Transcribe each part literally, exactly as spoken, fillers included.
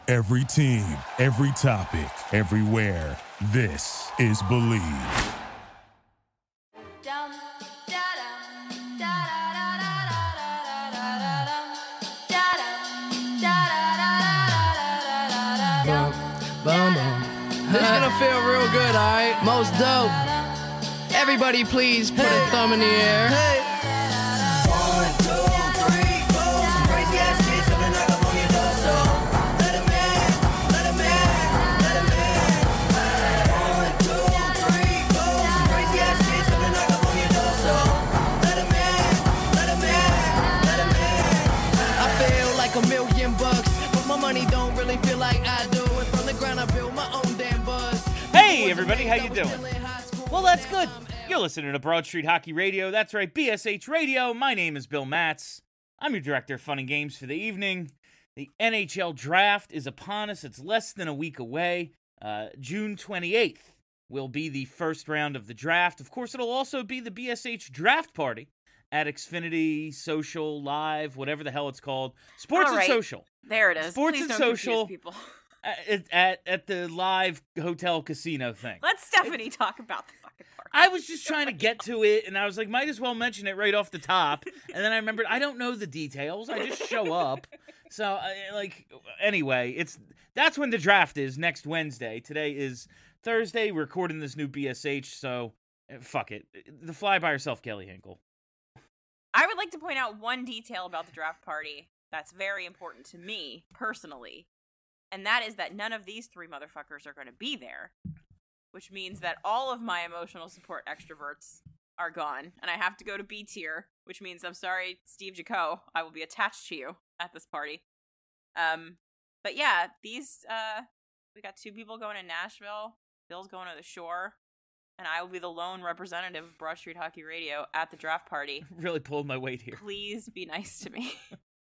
Every team, every topic, everywhere. This is Believe. This is gonna feel real good, alright? Most dope. Everybody please put hey. a thumb in the air. Hey. One, two, three, four. Some crazy ass kids coming knock up on your door, so let 'em in, let 'em in, let 'em in. One, two, three, four. Some crazy ass kids coming knock up on your door, so let 'em in, let 'em in, let 'em in. I feel like a million bucks, but my money don't really feel like I do. And from the ground I build my own damn buzz. Hey everybody, how you doing? Well, that's good. You're listening to Broad Street Hockey Radio. That's right, B S H Radio. My name is Bill Matz. I'm your director of fun and games for the evening. The N H L draft is upon us. It's less than a week away. Uh, June twenty-eighth will be the first round of the draft. Of course, it'll also be the B S H draft party at Xfinity Social Live, whatever the hell it's called. Sports right. and Social. There it is. Sports Please and don't Social. People. At, at at the live hotel casino thing. Let Stephanie talk about the fucking park. I was just trying to get to it, and I was like, might as well mention it right off the top. And then I remembered, I don't know the details. I just show up. So, uh, like, anyway, it's that's when the draft is, next Wednesday. Today is Thursday. We're recording this new B S H, so uh, fuck it. The fly by herself, Kelly Hinkle. I would like to point out one detail about the draft party that's very important to me, personally. And that is that none of these three motherfuckers are going to be there, which means that all of my emotional support extroverts are gone, and I have to go to B tier, which means I'm sorry, Steve Jaco, I will be attached to you at this party. Um, but yeah, these, uh, we got two people going to Nashville, Bill's going to the Shore, and I will be the lone representative of Broad Street Hockey Radio at the draft party. Really pulled my weight here. Please be nice to me.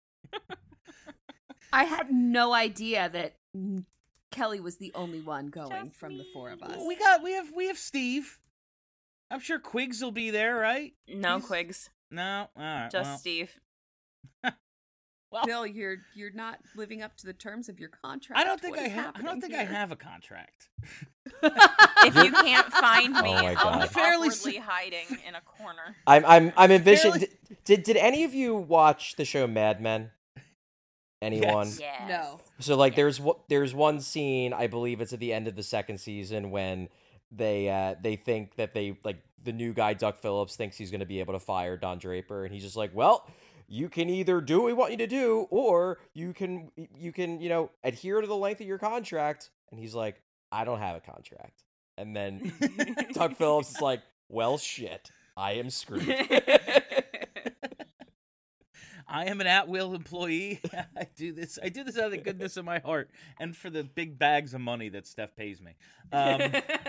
I had no idea that Kelly was the only one going Just from me. the four of us. We got, we have, we have Steve. I'm sure Quiggs will be there, right? No, He's... Quiggs. No, all right. Just well. Steve. Well, Bill, you're you're not living up to the terms of your contract. I don't think What I is have. I don't think here? I have a contract. If you can't find me, Oh my I'll God. be Fairly awkwardly hiding in a corner. I'm I'm I'm envisioning. Fairly- Did, did did any of you watch the show Mad Men? Anyone? Yes. Yes. No. So like Yeah. there's what there's one scene, I believe it's at the end of the second season, when they uh they think that they like the new guy Doug Phillips thinks he's going to be able to fire Don Draper, and he's just like, well, you can either do what we want you to do, or you can you can you know adhere to the length of your contract. And he's like, I don't have a contract. And then Doug Phillips is like, well, shit, I am screwed. I am an at-will employee. I do this. I do this out of the goodness of my heart, and for the big bags of money that Steph pays me. Um,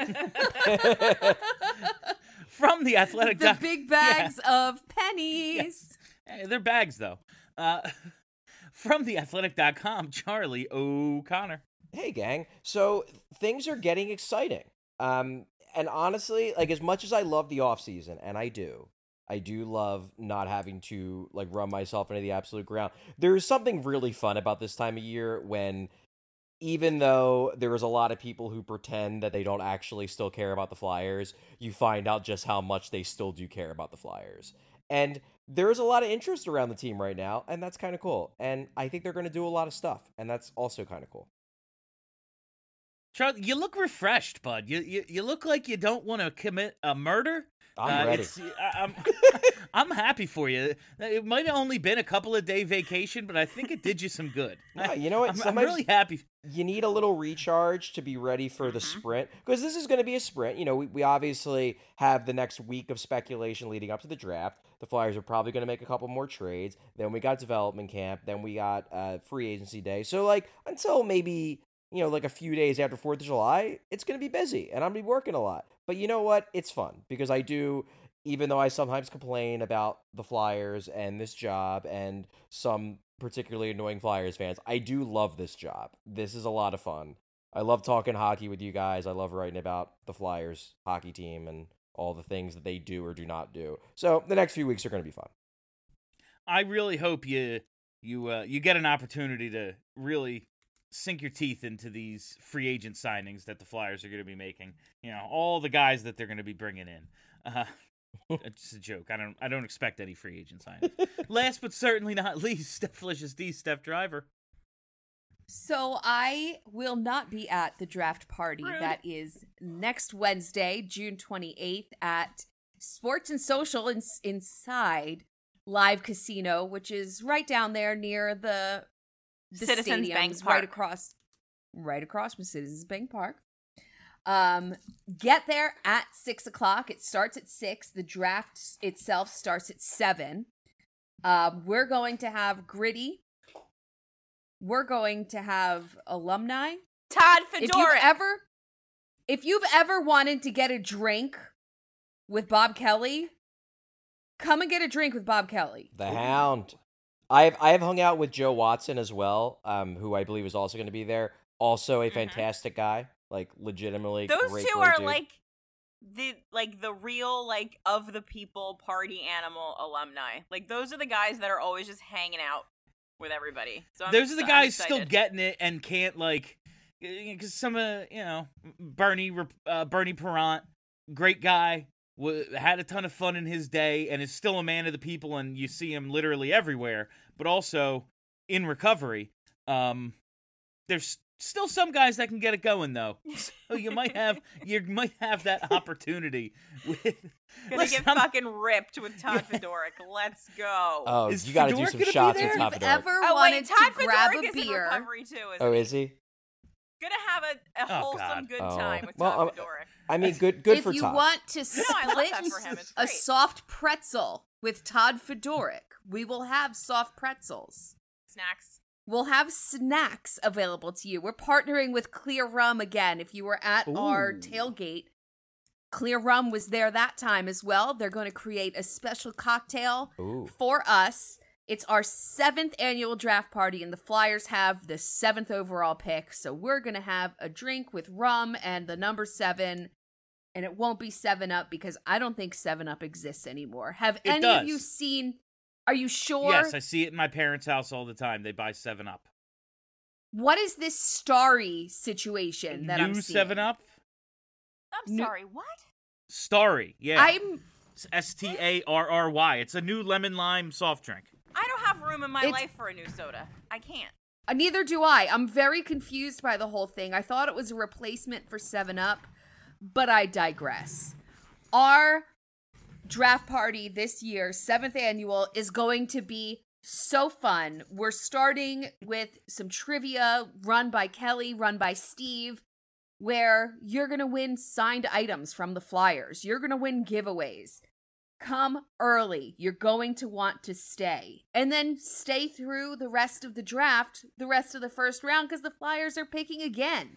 from the Athletic, The doc- big bags of pennies. Yeah. They're bags though. Uh, from the athletic dot com, Charlie O'Connor. Hey, gang. So things are getting exciting. Um, and honestly, like as much as I love the off season, and I do, I do love not having to like run myself into the absolute ground. There's something really fun about this time of year when, even though there is a lot of people who pretend that they don't actually still care about the Flyers, you find out just how much they still do care about the Flyers. And there's a lot of interest around the team right now, and that's kind of cool. And I think they're going to do a lot of stuff, and that's also kind of cool. Charlie, you look refreshed, bud. You you, you look like you don't want to commit a murder. I'm Uh, ready. it's- I, I'm I'm happy for you. It might have only been a couple of day vacation, but I think it did you some good. Yeah, you know what? I'm, I'm Sometimes- really happy. You need a little recharge to be ready for the sprint, because this is going to be a sprint. You know, we, we obviously have the next week of speculation leading up to the draft. The Flyers are probably going to make a couple more trades. Then we got development camp. Then we got uh, free agency day. So, like, until maybe, you know, like a few days after fourth of July, it's going to be busy, and I'm going to be working a lot. But you know what? It's fun, because I do, even though I sometimes complain about the Flyers and this job and some particularly annoying Flyers fans, I do love this job. This is a lot of fun. I love talking hockey with you guys. I love writing about the Flyers hockey team and all the things that they do or do not do. So the next few weeks are going to be fun. I really hope you you uh, you get an opportunity to really sink your teeth into these free agent signings that the Flyers are going to be making. You know, all the guys that they're going to be bringing in. Uh, it's a joke. I don't. I don't expect any free agent signings. Last but certainly not least, Steph Delicious D, Steph Driver. So I will not be at the draft party. Rude. That is next Wednesday, June twenty-eighth at Sports and Social in- inside Live Casino, which is right down there near the, the Citizens stadiums, Bank Park. right across, right across from Citizens Bank Park. Um, get there at six o'clock. It starts at six. The draft itself starts at seven. Um, we're going to have Gritty. We're going to have alumni. Todd If you've Fedoruk. ever, if you've ever wanted to get a drink with Bob Kelly, come and get a drink with Bob Kelly. The Hound. I've I've hung out with Joe Watson as well, um, who I believe is also going to be there. Also a fantastic guy, like legitimately. Those great, two great are dude. like the like the real like of the people party animal alumni. Like those are the guys that are always just hanging out with everybody. So I'm, Those are the I'm guys still excited. getting it and can't like, because some of you know Bernie uh, Bernie Perrant, great guy, w- had a ton of fun in his day and is still a man of the people, and you see him literally everywhere. But also in recovery, um, there's still some guys that can get it going though. So you might have you might have that opportunity with. Gonna Listen, get I'm- fucking ripped with Todd Fedoruk. Let's go. Oh, Is you got to do Fedoruk some gonna be shots there? with If Top you've Fedoruk. ever Oh wanted wait, Todd to grab Fedoruk a is in beer, recovery too. Isn't Oh, he? is he? Gonna have a, a Oh, wholesome God. good Oh. time with Well, Todd I'm- Fedoruk. I mean, good good if for you Todd. want to I split love that for him. It's a great. soft pretzel with Todd Fedoruk, we will have soft pretzels. Snacks. We'll have snacks available to you. We're partnering with Clear Rum again. If you were at our Ooh. tailgate, Clear Rum was there that time as well. They're going to create a special cocktail Ooh. for us. It's our seventh annual draft party, and the Flyers have the seventh overall pick. So we're going to have a drink with rum and the number seven, and it won't be seven up because I don't think seven up exists anymore. Have It any does. of you seen? Are you sure? Yes, I see it in my parents' house all the time. They buy Seven Up. What is this starry situation that I'm New seeing? Seven Up. I'm No- sorry. What? Starry, yeah. I'm S T A R R Y. It's a new lemon lime soft drink. I don't have room in my It's- life for a new soda. I can't. uh, neither do I. I'm very confused by the whole thing. I thought it was a replacement for seven up, but I digress. Our draft party this year, seventh annual, is going to be so fun. We're starting with some trivia run by Kelly, run by Steve, where you're going to win signed items from the Flyers. You're going to win giveaways. Come early. You're going to want to stay. And then stay through the rest of the draft, the rest of the first round, because the Flyers are picking again.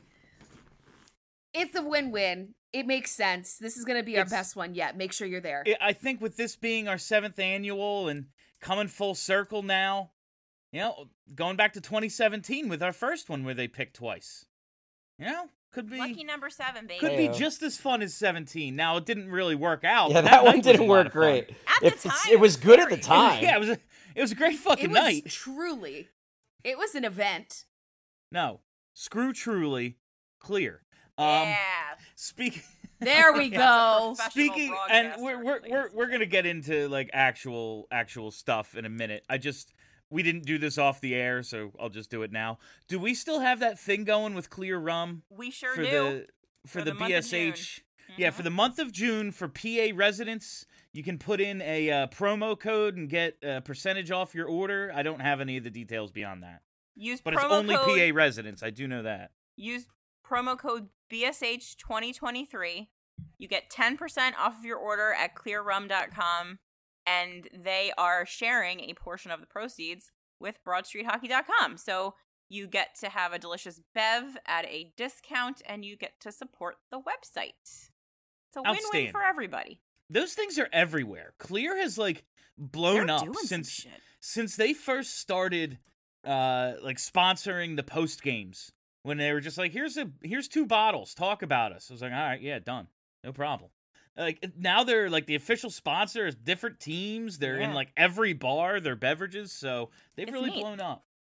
It's a win-win. It makes sense. This is going to be our It's- best one yet. Make sure you're there. I- I think with this being our seventh annual and coming full circle now, you know, going back to twenty seventeen with our first one where they picked twice. You know, could be Lucky number seven, baby. could be Heyo. just as fun as seventeen. Now it didn't really work out. Yeah, but that, one night was didn't a lot work of fun. great. At the If it's- time, it was it was good at the very- time. Yeah, it was a it was a great fucking it was night. truly. It was an event. No, screw truly clear. Um, Yeah. speak. There we Yeah. go. Professional Speaking, and broadcaster, we're we're ladies we're and we're gonna get into like actual actual stuff in a minute. I just we didn't do this off the air, so I'll just do it now. Do we still have that thing going with Clear Rum We sure for do. the for, For the, the month of June. B S H? Yeah, for the month of June for P A residents, you can put in a uh, promo code and get a percentage off your order. I don't have any of the details beyond that, Use but promo it's only code, P A residents. I do know that. Use promo code B S H twenty twenty-three. You get ten percent off of your order at clear rum dot com, and they are sharing a portion of the proceeds with broad street hockey dot com. So you get to have a delicious bev at a discount, and you get to support the website. It's a win-win Outstanding. for everybody. Those things are everywhere. Clear has like blown They're up doing some since shit. since they first started uh like sponsoring the post games, when they were just like, here's a here's two bottles, talk about us. I was like, all right, yeah, done, no problem. Like now they're like the official sponsor is different teams. They're in Yeah. like every bar, their beverages, so they've It's really neat. blown up.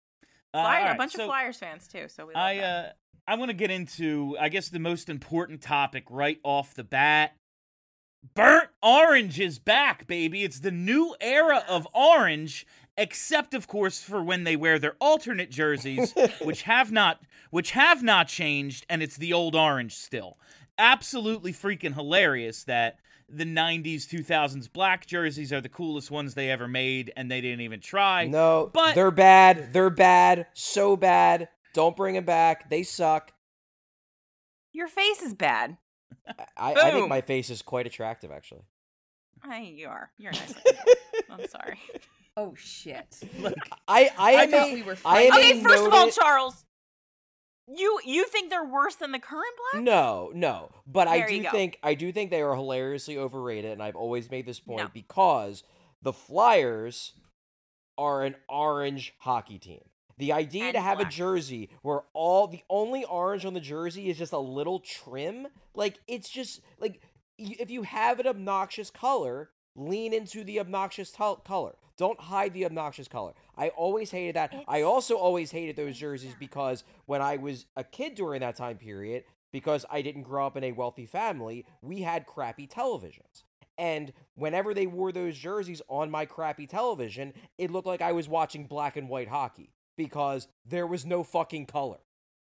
Uh, Fly- all a right, bunch so of Flyers fans too. So we love I that. uh, I want to get into, I guess, the most important topic right off the bat. Burnt orange is back, baby. It's the new era of orange, except of course for when they wear their alternate jerseys, which have not which have not changed, and it's the old orange still. Absolutely freaking hilarious that the nineties, two thousands black jerseys are the coolest ones they ever made, and they didn't even try. No, but they're bad. They're bad. So bad. Don't bring them back. They suck. Your face is bad. I, I think Boom. my face is quite attractive, actually. I, you are. You're a nice looking boy. I'm sorry. Oh shit. I, I, I am thought a- we were I am fighting. a Okay, first of all, noted- Charles, you you think they're worse than the current black? No, no. But I There you do go. think I do think they are hilariously overrated, and I've always made this point No. because the Flyers are an orange hockey team. The idea And to have black. a jersey where all the only orange on the jersey is just a little trim, like it's just like y- if you have an obnoxious color, lean into the obnoxious tel- color. Don't hide the obnoxious color. I always hated that. I It's- also always hated those jerseys because when I was a kid during that time period, because I didn't grow up in a wealthy family, we had crappy televisions. And whenever they wore those jerseys on my crappy television, it looked like I was watching black and white hockey because there was no fucking color.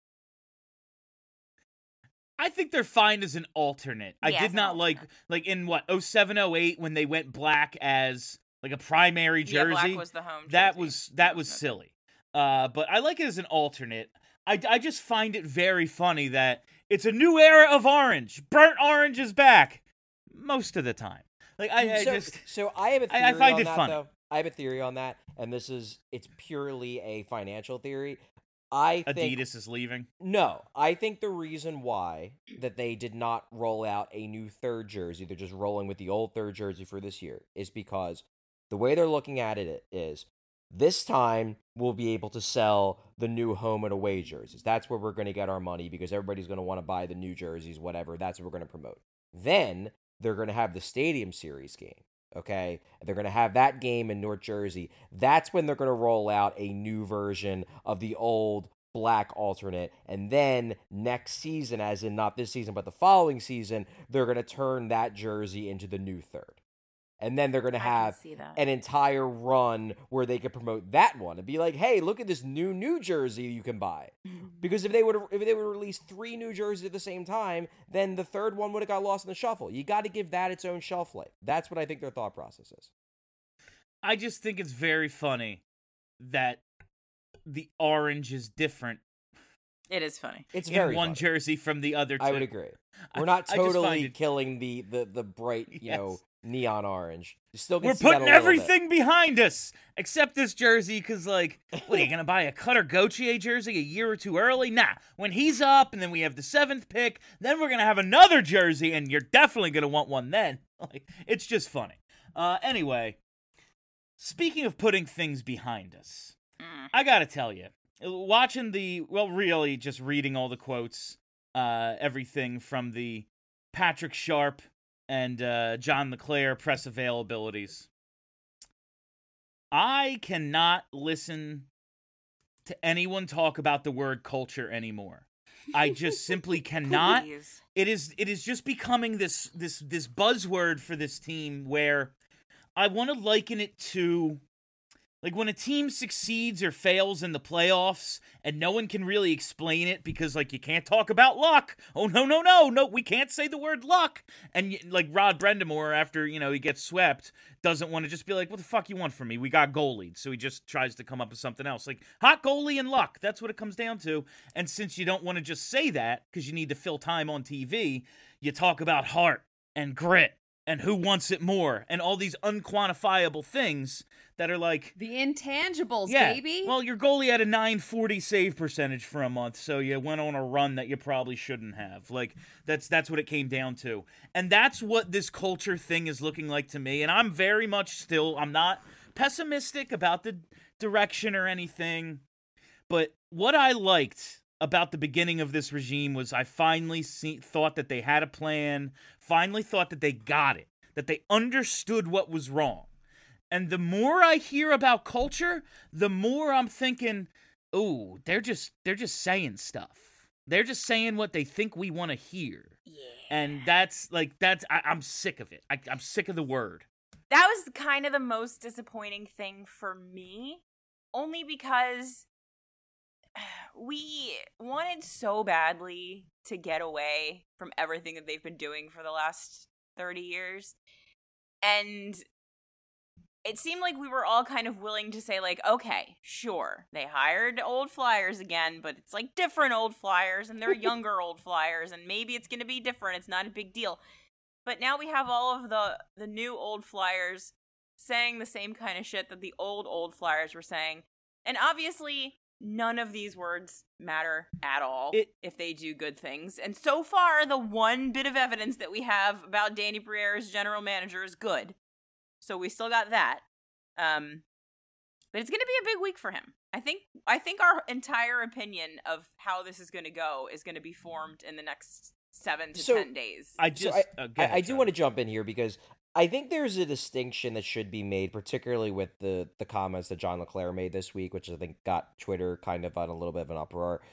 I think they're fine as an alternate. I Yeah, did as an not like, alternate. like in what, oh seven, oh eight when they went black as like a primary Yeah, jersey. black was the home. that jersey. was that was no good. silly. Uh, but I like it as an alternate. I, I just find it very funny that it's a new era of orange. Burnt orange is back most of the time. Like I, I so, just so I have a theory I- I find on it that, funny. though. I have a theory on that, and this is it's purely a financial theory. I think Adidas is leaving. No, I think the reason why that they did not roll out a new third jersey, they're just rolling with the old third jersey for this year, is because the way they're looking at it is this time we'll be able to sell the new home and away jerseys. That's where we're going to get our money because everybody's going to want to buy the new jerseys, whatever. That's what we're going to promote. Then they're going to have the Stadium Series game. Okay, they're going to have that game in North Jersey. That's when they're going to roll out a new version of the old black alternate. And then next season, as in not this season, but the following season, they're going to turn that jersey into the new third. And then they're going to I can have see that. an entire run where they could promote that one and be like, hey, look at this new New Jersey you can buy. Because if they would if they would release three new jerseys at the same time, then the third one would have got lost in the shuffle. You got to give that its own shelf life. That's what I think their thought process is. I just think it's very funny that the orange is different It is funny. It's in very one funny. jersey from the other two. I would agree. I- We're not I just find totally it- killing the, the, the bright, you know, Yes. neon orange. You still can We're see that a putting little bit. everything behind us except this jersey because, like, what are you gonna buy a Cutter Gauthier jersey a year or two early? Nah, when he's up, and then we have the seventh pick, then we're gonna have another jersey, and you're definitely gonna want one then. Like, it's just funny. Uh, anyway, speaking of putting things behind us, Mm. I gotta tell you, watching the well, really just reading all the quotes, uh, everything from the Patrick Sharp and uh, John LeClaire press availabilities. I cannot listen to anyone talk about the word culture anymore. I just simply cannot. Please. It is it is just becoming this this this buzzword for this team where I want to liken it to like when a team succeeds or fails in the playoffs and no one can really explain it because like you can't talk about luck. Oh no no no no we can't say the word luck. And like Rod Brendamore after, you know, he gets swept doesn't want to just be like, what the fuck you want from me? We got goalied. So he just tries to come up with something else. Like hot goalie and luck. That's what it comes down to. And since you don't want to just say that because you need to fill time on T V, you talk about heart and grit and who wants it more and all these unquantifiable things that are like, The intangibles, yeah, baby. well, your goalie had a nine forty save percentage for a month, so you went on a run that you probably shouldn't have. Like, that's that's what it came down to. And that's what this culture thing is looking like to me. And I'm very much still, I'm not pessimistic about the direction or anything. But what I liked about the beginning of this regime was I finally see, thought that they had a plan, finally thought that they got it, that they understood what was wrong. And the more I hear about culture, the more I'm thinking, ooh, they're just they're just saying stuff. They're just saying what they think we want to hear. Yeah. And that's like that's I, I'm sick of it. I, I'm sick of the word. That was kind of the most disappointing thing for me, only because we wanted so badly to get away from everything that they've been doing for the last thirty years. And it seemed like we were all kind of willing to say, like, okay, sure, they hired old Flyers again, but it's like different old Flyers, and they're younger old Flyers, and maybe it's going to be different. It's not a big deal. But now we have all of the, the new old Flyers saying the same kind of shit that the old, old Flyers were saying. And obviously, none of these words matter at all it, if they do good things. And so far, the one bit of evidence that we have about Danny Briere as general manager is good. So we still got that. Um, but it's going to be a big week for him. I think I think our entire opinion of how this is going to go is going to be formed in the next seven to So, ten days. I just So I, uh, go I, ahead, I do Charlie. want to jump in here because I think there's a distinction that should be made, particularly with the, the comments that John LeClaire made this week, which I think got Twitter kind of on a little bit of an uproar.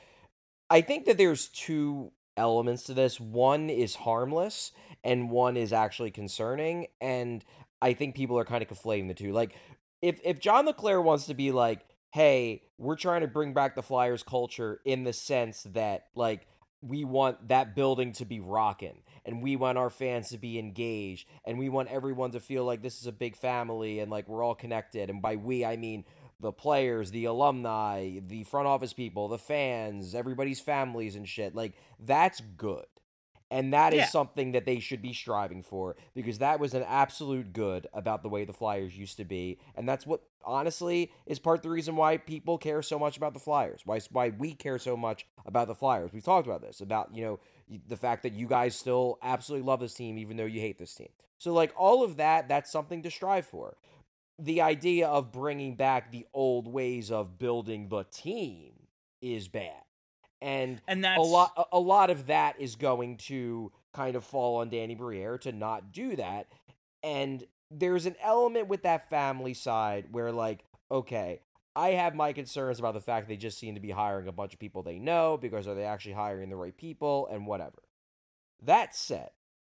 I think that there's two elements to this. One is harmless, and one is actually concerning, and I think people are kind of conflating the two. Like, if if John LeClaire wants to be like, hey, we're trying to bring back the Flyers culture in the sense that, like, we want that building to be rocking, and we want our fans to be engaged, and we want everyone to feel like this is a big family, and, like, we're all connected. And by we, I mean the players, the alumni, the front office people, the fans, everybody's families and shit. Like, that's good. And that is Yeah. something that they should be striving for, because that was an absolute good about the way the Flyers used to be. And that's what, honestly, is part of the reason why people care so much about the Flyers, why why we care so much about the Flyers. We've talked about this, about, you know, the fact that you guys still absolutely love this team, even though you hate this team. So, like, all of that, that's something to strive for. The idea of bringing back the old ways of building the team is bad. And, And that's a lot a, a lot of that is going to kind of fall on Danny Briere to not do that. And there's an element with that family side where, like, okay, I have my concerns about the fact they just seem to be hiring a bunch of people they know, because are they actually hiring the right people and whatever. That said,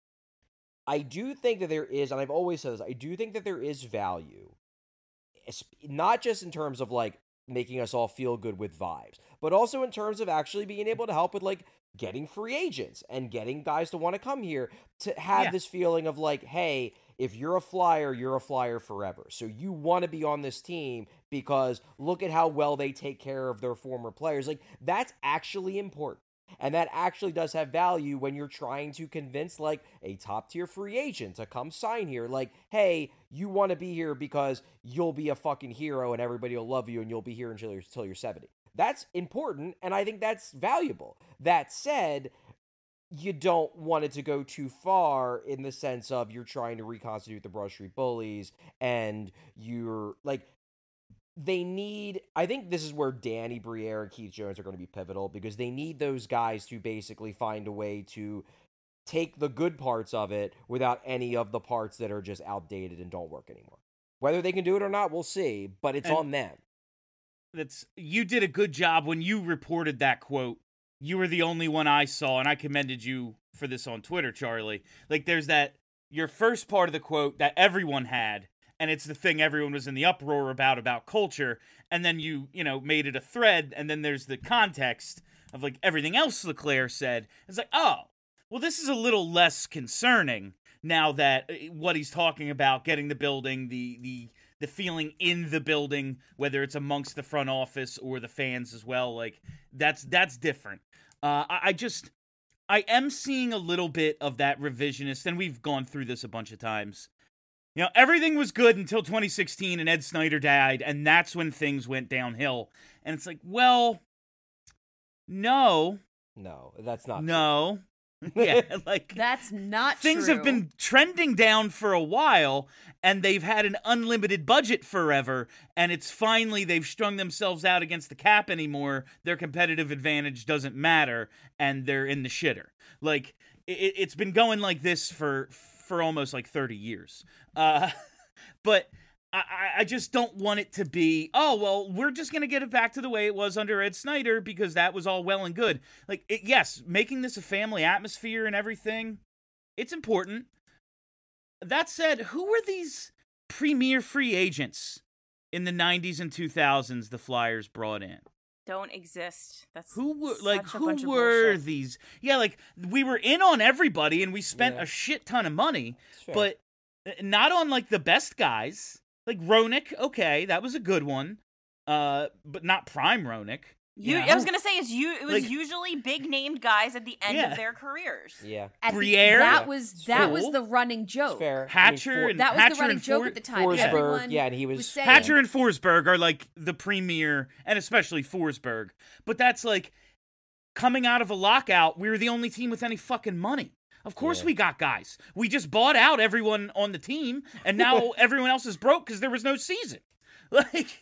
I do think that there is, and I've always said this, I do think that there is value, not just in terms of, like, making us all feel good with vibes, but also in terms of actually being able to help with, like, getting free agents and getting guys to want to come here, to have Yeah. this feeling of, like, hey, if you're a Flyer, you're a Flyer forever. So you want to be on this team because look at how well they take care of their former players. Like, that's actually important. And that actually does have value when you're trying to convince, like, a top-tier free agent to come sign here. Like, hey, you want to be here because you'll be a fucking hero and everybody will love you and you'll be here until you're, until you're seventy. That's important, and I think that's valuable. That said, you don't want it to go too far in the sense of you're trying to reconstitute the Broad Street Bullies, and you're, like, they need, I think this is where Danny Briere and Keith Jones are going to be pivotal, because they need those guys to basically find a way to take the good parts of it without any of the parts that are just outdated and don't work anymore. Whether they can do it or not, we'll see, but it's And- on them. That's you did a good job when you reported that quote. You were the only one I saw, and I commended you for this on Twitter, Charlie. Like, there's that your first part of the quote that everyone had, and it's the thing everyone was in the uproar about about culture, and then you you know made it a thread, and then there's the context of, like, everything else LeClaire said. It's like, oh, well, this is a little less concerning now that uh, what he's talking about, getting the building, the the the feeling in the building, whether it's amongst the front office or the fans as well, like, that's that's different. Uh, I, I just, I am seeing a little bit of that revisionist, and we've gone through this a bunch of times. You know, everything was good until twenty sixteen and Ed Snyder died, and that's when things went downhill. And it's like, well, no, No, that's not no. Yeah, like, That's not things true. have been trending down for a while, and they've had an unlimited budget forever, and it's finally they've strung themselves out against the cap anymore. Their competitive advantage doesn't matter, and they're in the shitter. Like, it, it's been going like this for for almost like thirty years. Uh, but I, I just don't want it to be, oh, well, we're just going to get it back to the way it was under Ed Snyder because that was all well and good. Like, it, yes, making this a family atmosphere and everything, it's important. That said, who were these premier free agents in the nineties and two thousands the Flyers brought in? Don't exist. That's Who were like such a bunch who of were bullshit. these? Yeah, like we were in on everybody and we spent Yeah. a shit ton of money, It's fair. but not on like the best guys. Like Roenick, okay, that was a good one. Uh, but not prime Roenick. You, you I was know? gonna say is you. It was Like- usually big named guys at the end Yeah. of their careers. Yeah, At the- Briere? that was that Cool. was the running joke. it's fair. Hatcher I mean, and That was Hatcher the running and joke For- at the time. Forsberg, Everyone yeah, and he was- was saying, Hatcher and Forsberg are like the premier, and especially Forsberg. But that's like coming out of a lockout, we were the only team with any fucking money. Of course Yeah. we got guys. We just bought out everyone on the team, and now everyone else is broke because there was no season. Like,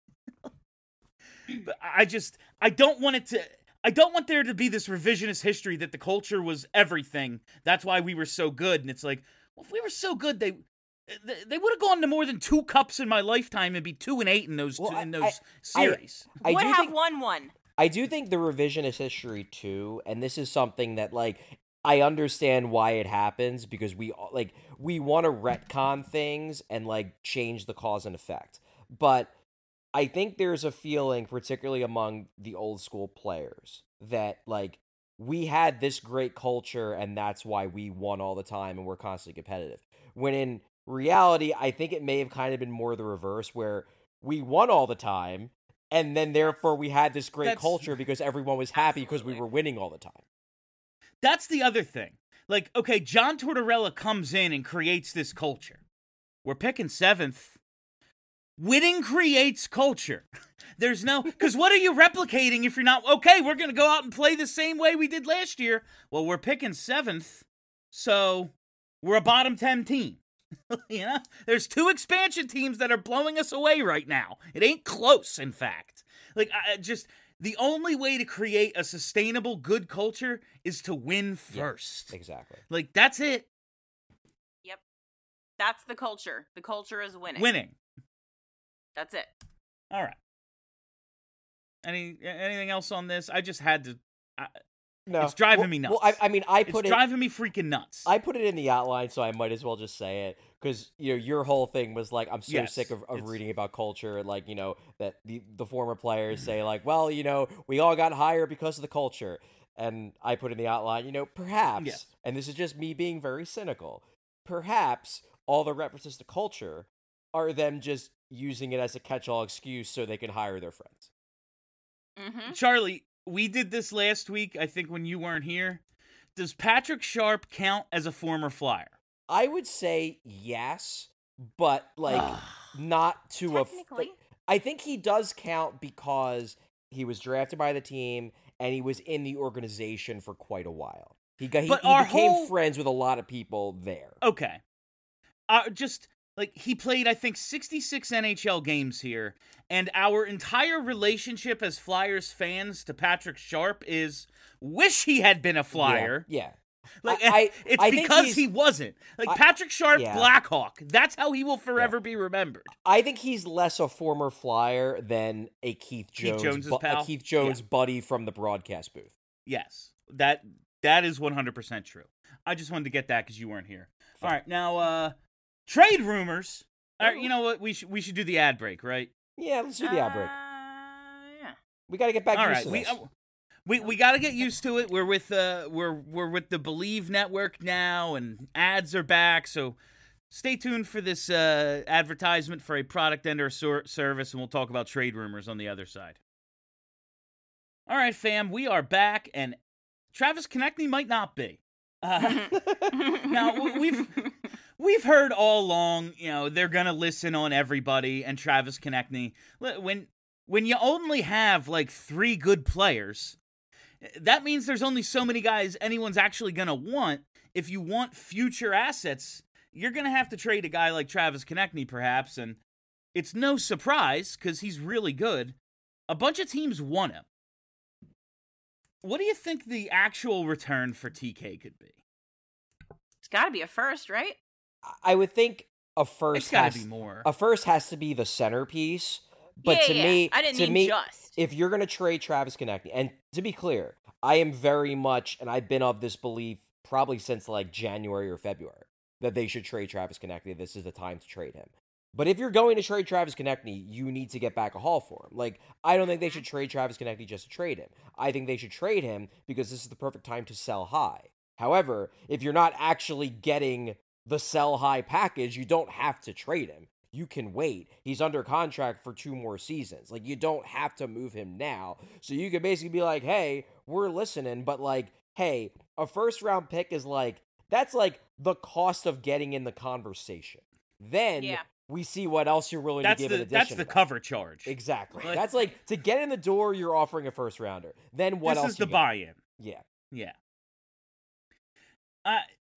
but I just, I don't want it to, I don't want there to be this revisionist history that the culture was everything. That's why we were so good. And it's like, well, if we were so good, they, they, they would have gone to more than two cups in my lifetime and be two and eight in those Well, two, in I- those I- series. I Would do have think won one. I do think the revisionist history too, and this is something that like I understand why it happens because we like we want to retcon things and like change the cause and effect. But I think there's a feeling, particularly among the old school players, that like we had this great culture and that's why we won all the time and we're constantly competitive. When in reality, I think it may have kind of been more the reverse where we won all the time and then therefore we had this great That's- culture because everyone was happy because we Absolutely. were winning all the time. That's the other thing. Like, okay, John Tortorella comes in and creates this culture. We're picking seventh. Winning creates culture. There's no, because what are you replicating if you're not, okay, we're going to go out and play the same way we did last year. Well, we're picking seventh, so we're a bottom ten team. You know, there's two expansion teams that are blowing us away right now. It ain't close, in fact. Like, I I just, the only way to create a sustainable, good culture is to win Yeah. first. Exactly. Like, that's it. Yep. That's the culture. The culture is winning. Winning. That's it. All right. Any anything else on this? I just had to. I, No, It's driving well, me Well, I, nuts. I mean, I it's put it. driving me freaking nuts. I put it in the outline, so I might as well just say it because you know your whole thing was like, I'm so Yes, sick of, of it's- reading about culture and like you know that the the former players say like, well, you know, we all got hired because of the culture, and I put in the outline, you know, perhaps, Yes. and this is just me being very cynical, perhaps all the references to culture are them just using it as a catch-all excuse so they can hire their friends. Mm-hmm. Charlie, we did this last week, I think, when you weren't here. Does Patrick Sharp count as a former Flyer? I would say yes, but like not to a. f- Technically. like, I think he does count because he was drafted by the team and he was in the organization for quite a while. He got he, But he our became whole- friends with a lot of people there. Okay. Uh, just, like, he played, I think, sixty-six N H L games here, and our entire relationship as Flyers fans to Patrick Sharp is, wish he had been a Flyer. Yeah. yeah. Like, I- I- it's I think because he's- he wasn't. Like, I- Patrick Sharp, yeah. Blackhawk. That's how he will forever be remembered. I think he's less a former Flyer than a Keith Keith Jones, Jones's bu- pal? a Keith Jones buddy from the broadcast booth. Yes, that that is one hundred percent true. I just wanted to get that because you weren't here. All right, now, uh, trade rumors. All right, you know what? We should we should do the ad break, right? Yeah, let's do the ad break. Uh, yeah. We got to get back All used right, to we this. uh, we we got to get used to it. We're with uh we're we're with the Believe Network now, and ads are back. So stay tuned for this uh, advertisement for a product and or sor- service, and we'll talk about trade rumors on the other side. All right, fam, we are back, and Travis Konechny might not be. Uh, now w- we've we've heard all along, you know, they're gonna listen on everybody, and Travis Konechny. When when you only have like three good players, that means there's only so many guys anyone's actually gonna want. If you want future assets, you're gonna have to trade a guy like Travis Konechny, perhaps, and it's no surprise because he's really good. A bunch of teams want him. What do you think the actual return for T K could be? It's got to be a first, right? I would think a first It's got has to be more. a first has to be the centerpiece. But yeah, to yeah, me, yeah. I didn't to mean me, just. if you're going to trade Travis Konechny, and to be clear, I am very much, and I've been of this belief probably since like January or February, that they should trade Travis Konechny. This is the time to trade him. But if you're going to trade Travis Konechny, you need to get back a haul for him. Like, I don't think they should trade Travis Konechny just to trade him. I think they should trade him because this is the perfect time to sell high. However, if you're not actually getting the sell high package, you don't have to trade him. You can wait. He's under contract for two more seasons. Like, you don't have to move him now. So you could basically be like, hey, we're listening, but like, hey, a first round pick is like, that's like the cost of getting in the conversation. Then Yeah. we see what else you're willing That's to give the in addition. that's to the that. cover charge. Exactly. Like- That's like, to get in the door, you're offering a first rounder. Then what this else is you the got? buy-in. Yeah. Yeah. Uh,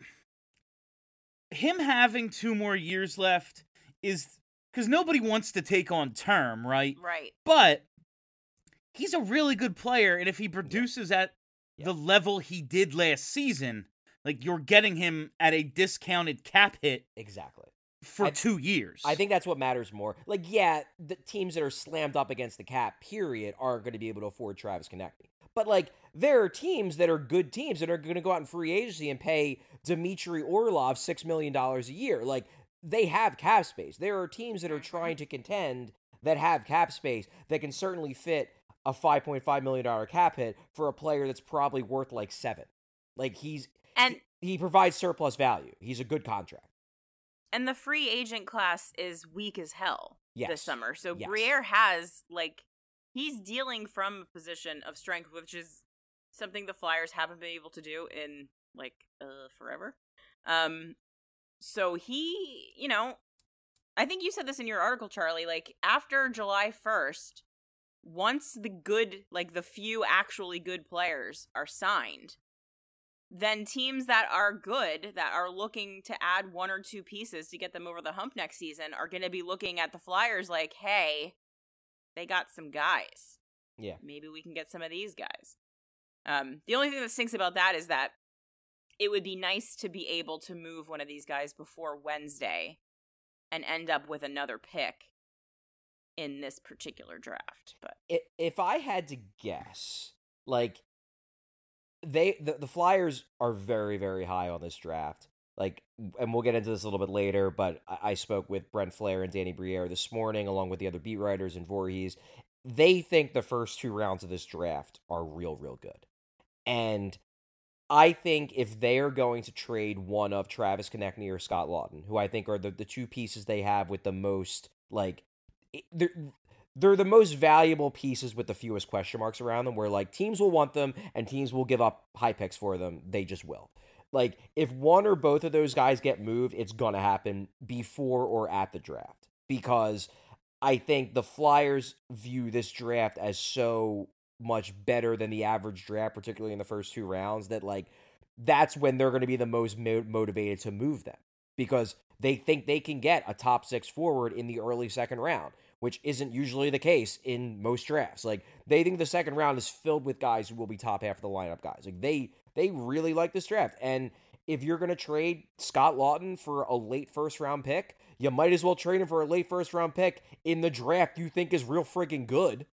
him having two more years left is because nobody wants to take on term, right? Right. But he's a really good player, and if he produces at Yeah. the level he did last season, like you're getting him at a discounted cap hit Exactly. for I- two years. I think that's what matters more. Like, yeah, the teams that are slammed up against the cap, period, aren't going to be able to afford Travis Konechny. But, like, there are teams that are good teams that are going to go out in free agency and pay Dmitry Orlov six million dollars a year. Like, they have cap space. There are teams that are trying to contend that have cap space that can certainly fit a five point five million dollars cap hit for a player that's probably worth, like, seven. Like, he's... And he provides surplus value. He's a good contract. and the free agent class is weak as hell Yes. this summer. So Yes. Briere has like he's dealing from a position of strength, which is something the Flyers haven't been able to do in like uh forever. Um so he, you know, I think you said this in your article, Charlie, like after July first, once the good, like the few actually good players are signed, then teams that are good, that are looking to add one or two pieces to get them over the hump next season, are going to be looking at the Flyers like, hey, they got some guys. Yeah. Maybe we can get some of these guys. Um, the only thing that stinks about that is that it would be nice to be able to move one of these guys before Wednesday and end up with another pick in this particular draft. But I- If I had to guess, like, they the, the Flyers are very, very high on this draft. Like, and we'll get into this a little bit later, but I, I spoke with Brent Flair and Danny Briere this morning, along with the other beat writers and Voorhees. They think the first two rounds of this draft are real, real good. And I think if they are going to trade one of Travis Konechny or Scott Laughton, who I think are the, the two pieces they have with the most, like, they're, they're the most valuable pieces with the fewest question marks around them, where, like, teams will want them and teams will give up high picks for them. They just will. Like, if one or both of those guys get moved, it's going to happen before or at the draft. Because I think the Flyers view this draft as so much better than the average draft, particularly in the first two rounds, that, like, that's when they're going to be the most mo- motivated to move them. Because they think they can get a top six forward in the early second round, which isn't usually the case in most drafts. Like, they think the second round is filled with guys who will be top half of the lineup guys. Like, they they really like this draft. And if you're going to trade Scott Laughton for a late first round pick, you might as well trade him for a late first round pick in the draft you think is real freaking good.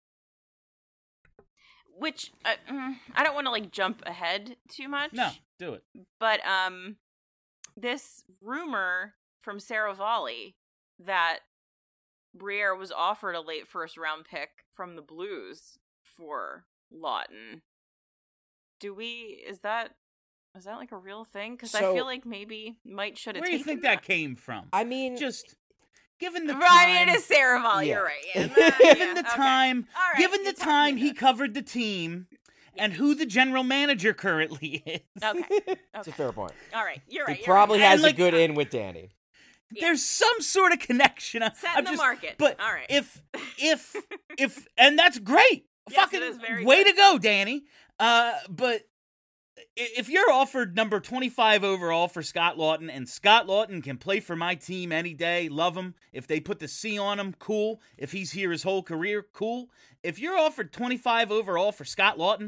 which uh, mm, I don't want to like jump ahead too much. No, do it. But um, this rumor from Sarah Volley that Briere was offered a late first round pick from the Blues for Laughton. Do we? Is that is that like a real thing? Because I So- feel like maybe Mike should have. Where do you taken think that came from? I mean, Just given the Right, time, it is Sarah Volley. Yeah. You're right. Yeah, given yeah, the okay. time, All right, given the you talked time me he into it. covered the team, and who the general manager currently is. Okay. it's a Okay. fair point. All right. You're right. He you're probably right. has And, like, a good in with Danny. Yeah. There's some sort of connection. I- Set I'm in the just- market. But All right. if if if and that's great. Yes, it Fucking is very way good. to go, Danny. Uh, but i- if you're offered number twenty-five overall for Scott Laughton, and Scott Laughton can play for my team any day, love him. If they put the C on him, cool. If he's here his whole career, cool. If you're offered twenty-five overall for Scott Laughton,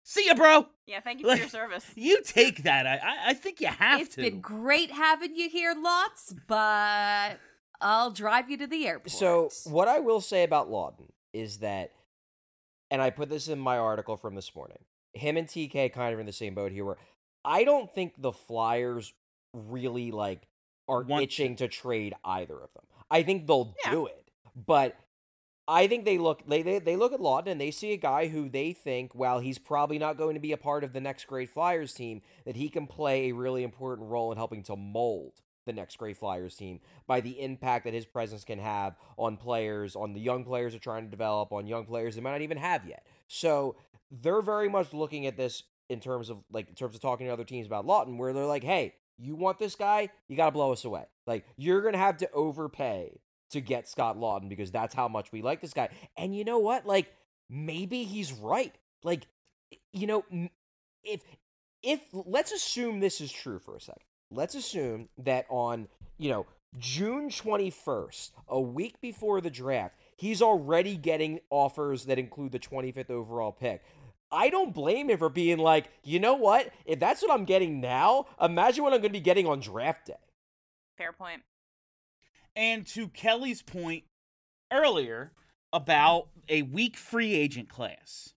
See ya, bro. Yeah, thank you for Like, your service. You take that. I I, I think you have It's to. been great having you here, Lots, but I'll drive you to the airport. So what I will say about Lawton is that, and I put this in my article from this morning, him and T K kind of in the same boat here, where I don't think the Flyers really like are Want itching to trade either of them. I think they'll Yeah. do it, but I think they look they, they they look at Lawton and they see a guy who they think, while he's probably not going to be a part of the next great Flyers team, that he can play a really important role in helping to mold the next great Flyers team by the impact that his presence can have on players, on the young players they're trying to develop, on young players they might not even have yet. So they're very much looking at this in terms of like in terms of talking to other teams about Lawton, where they're like, hey, you want this guy? You got to blow us away. Like, you're going to have to overpay to get Scott Lawton because that's how much we like this guy. And you know what? Like, maybe he's right. Like, you know, if, if, let's assume this is true for a second. Let's assume that on, you know, June twenty-first, a week before the draft, he's already getting offers that include the twenty-fifth overall pick. I don't blame him for being like, you know what? If that's what I'm getting now, imagine what I'm going to be getting on draft day. Fair point. And to Kelly's point earlier about a weak free agent class,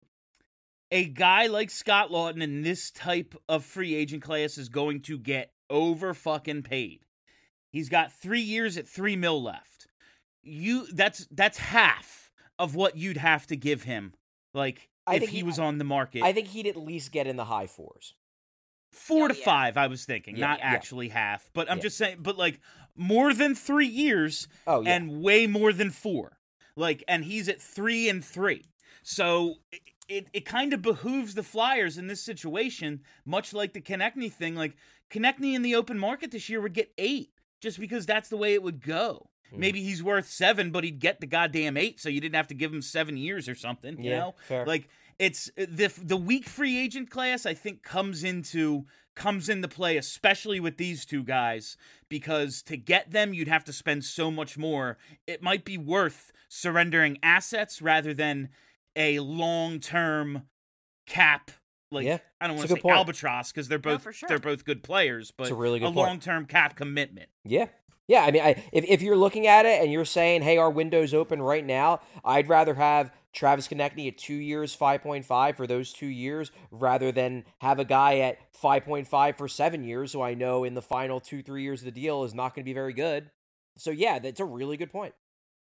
a guy like Scott Lawton in this type of free agent class is going to get over fucking paid. He's got three years at three mil left. You that's that's half of what you'd have to give him. Like, I if think he he- was on the market. I think he'd at least get in the high fours. Four Oh, to yeah. five, I was thinking, Yeah, not yeah. actually half. But I'm Yeah. just saying, but like more than three years Oh, yeah. and way more than four. Like, and he's at three and three. So it, it, it kind of behooves the Flyers in this situation, much like the Konechny thing. Like, Konechny in the open market this year would get eight just because that's the way it would go. Hmm. Maybe he's worth seven, but he'd get the goddamn eight, so you didn't have to give him seven years or something, you Yeah, know? fair. Like, it's the the weak free agent class, I think, comes into comes into play, especially with these two guys, because to get them, you'd have to spend so much more. It might be worth surrendering assets rather than a long-term cap. Like, Yeah, I don't it's want a to good say point. albatross because they're No, both for sure. they're both good players, but It's a really good point. long-term cap commitment. Yeah. Yeah, I mean, I, if, if you're looking at it and you're saying, hey, our window's open right now, I'd rather have Travis Konechny at two years, five point five for those two years, rather than have a guy at five point five for seven years who I know in the final two, three years of the deal is not going to be very good. So, yeah, that's a really good point.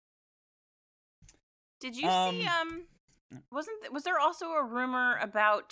Did you Um, see? Um, wasn't th- was there also a rumor about,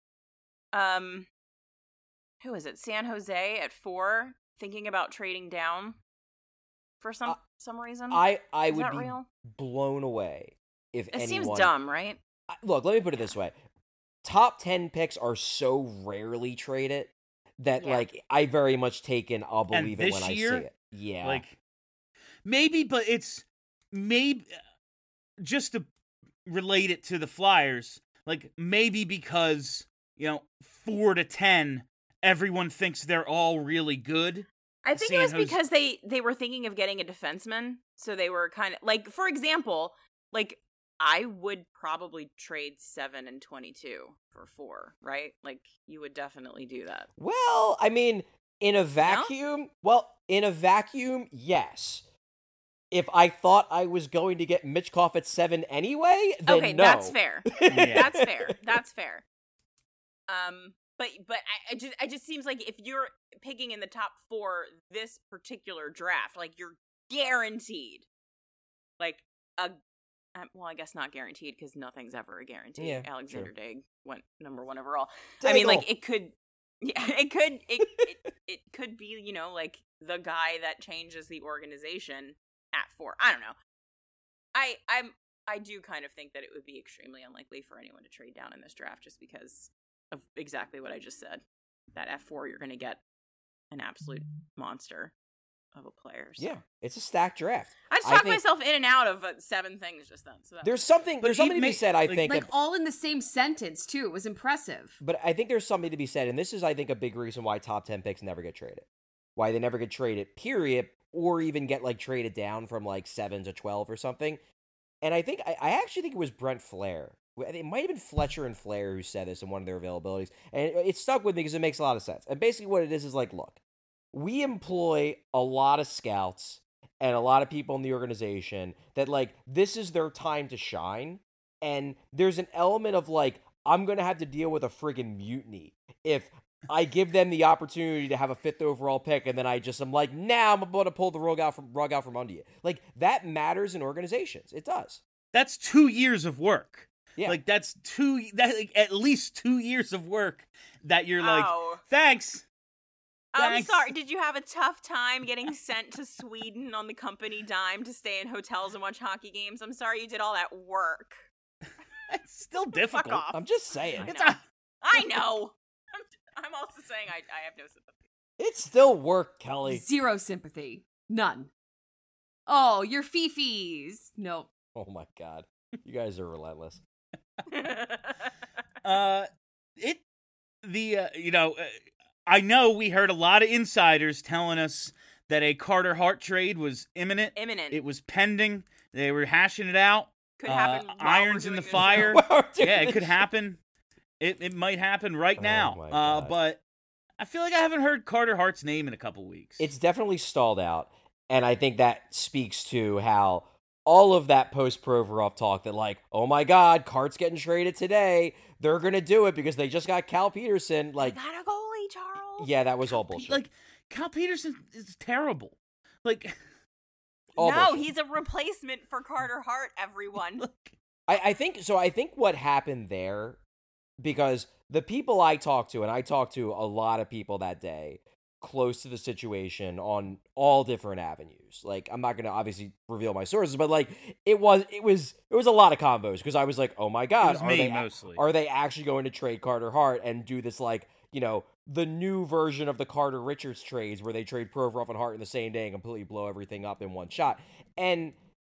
um, who is it? San Jose at four, thinking about trading down for some Uh, some reason. I, I Is would that be real? blown away if It anyone... seems dumb, right? I- Look, let me put it this way. Top ten picks are so rarely traded that, Yeah. like, I very much take in, I'll And believe it this when I year, see it. Yeah. Like, maybe, but it's maybe just to relate it to the Flyers. Like, maybe because, you know, four to ten, everyone thinks they're all really good. I think San it was Jose- because they they were thinking of getting a defenseman, so they were kind of like, for example, like I would probably trade seven and twenty-two for four, right? Like you would definitely do that. Well, I mean, in a vacuum, well, in a vacuum, yes. If I thought I was going to get Mitchkov at seven anyway, then Okay, no. that's fair. Yeah. That's fair. That's fair. Um, but but I, I just I just seems like if you're picking in the top four this particular draft, like you're guaranteed, like a um, well, I guess not guaranteed because nothing's ever a guarantee. Yeah, Alexander true. Digg went number one overall. I mean, like Diggle. it could, yeah, it could, it, it it could be, you know, like the guy that changes the organization at four. I don't know. I I'm I do kind of think that it would be extremely unlikely for anyone to trade down in this draft just because of exactly what I just said. That at four, you're going to get an absolute monster of a player. So. Yeah, it's a stacked draft. I just I talked think- myself in and out of uh, seven things just then. So that There's something. But There's something he to be may- said. I like- think. Like of- all in the same sentence too. It was impressive. But I think there's something to be said, and this is, I think, a big reason why top ten picks never get traded. Why they never get traded, period, or even get, like, traded down from, like, seven to twelve or something. And I think, I, I actually think it was Brent Flair it might have been Fletcher and Flair who said this in one of their availabilities, and it, it stuck with me because it makes a lot of sense. And basically what it is is like, look, we employ a lot of scouts and a lot of people in the organization that, like, this is their time to shine, and there's an element of, like, I'm going to have to deal with a friggin' mutiny if I give them the opportunity to have a fifth overall pick, and then I just am like, nah, I'm about to pull the rug out from, rug out from under you. Like, that matters in organizations. It does. That's two years of work. Yeah. Like, that's two, that like, at least two years of work that you're like, Oh. thanks. I'm Thanks. sorry. Did you have a tough time getting sent to Sweden on the company dime to stay in hotels and watch hockey games? I'm sorry you did all that work. It's still difficult. Fuck off. I'm just saying. I It's know. a, I know. I'm, I'm also saying I, I have no sympathy. It's still work, Kelly. Zero sympathy. None. Oh, your fifis. Nope. Oh my God. You guys are relentless. uh, it, the, uh, you know, uh, I know we heard a lot of insiders telling us that a Carter Hart trade was imminent. Imminent. It was pending. They were hashing it out. Could Uh, happen. while we're irons in doing the this fire. show. While we're doing Yeah, it this could shit. happen. It it might happen right Oh now. my Uh, God. but I feel like I haven't heard Carter Hart's name in a couple weeks. It's definitely stalled out, and I think that speaks to how all of that post-Provorov talk that, like, oh my God, Cart's getting traded today. They're going to do it because they just got Cal Peterson. Like, Got a goalie, Charles. yeah, that was all bullshit. Like, Cal Peterson is terrible. Like, all no, bullshit. he's a replacement for Carter Hart, everyone. look, I, I think so. I think what happened there, because the people I talked to, and I talked to a lot of people that day close to the situation on all different avenues. Like, I'm not going to obviously reveal my sources, but like it was, it was, it was a lot of combos because I was like, oh my it God, was are me they, mostly. are they actually going to trade Carter Hart and do this, like, you know, the new version of the Carter Richards trades where they trade Provorov and Hart in the same day and completely blow everything up in one shot? And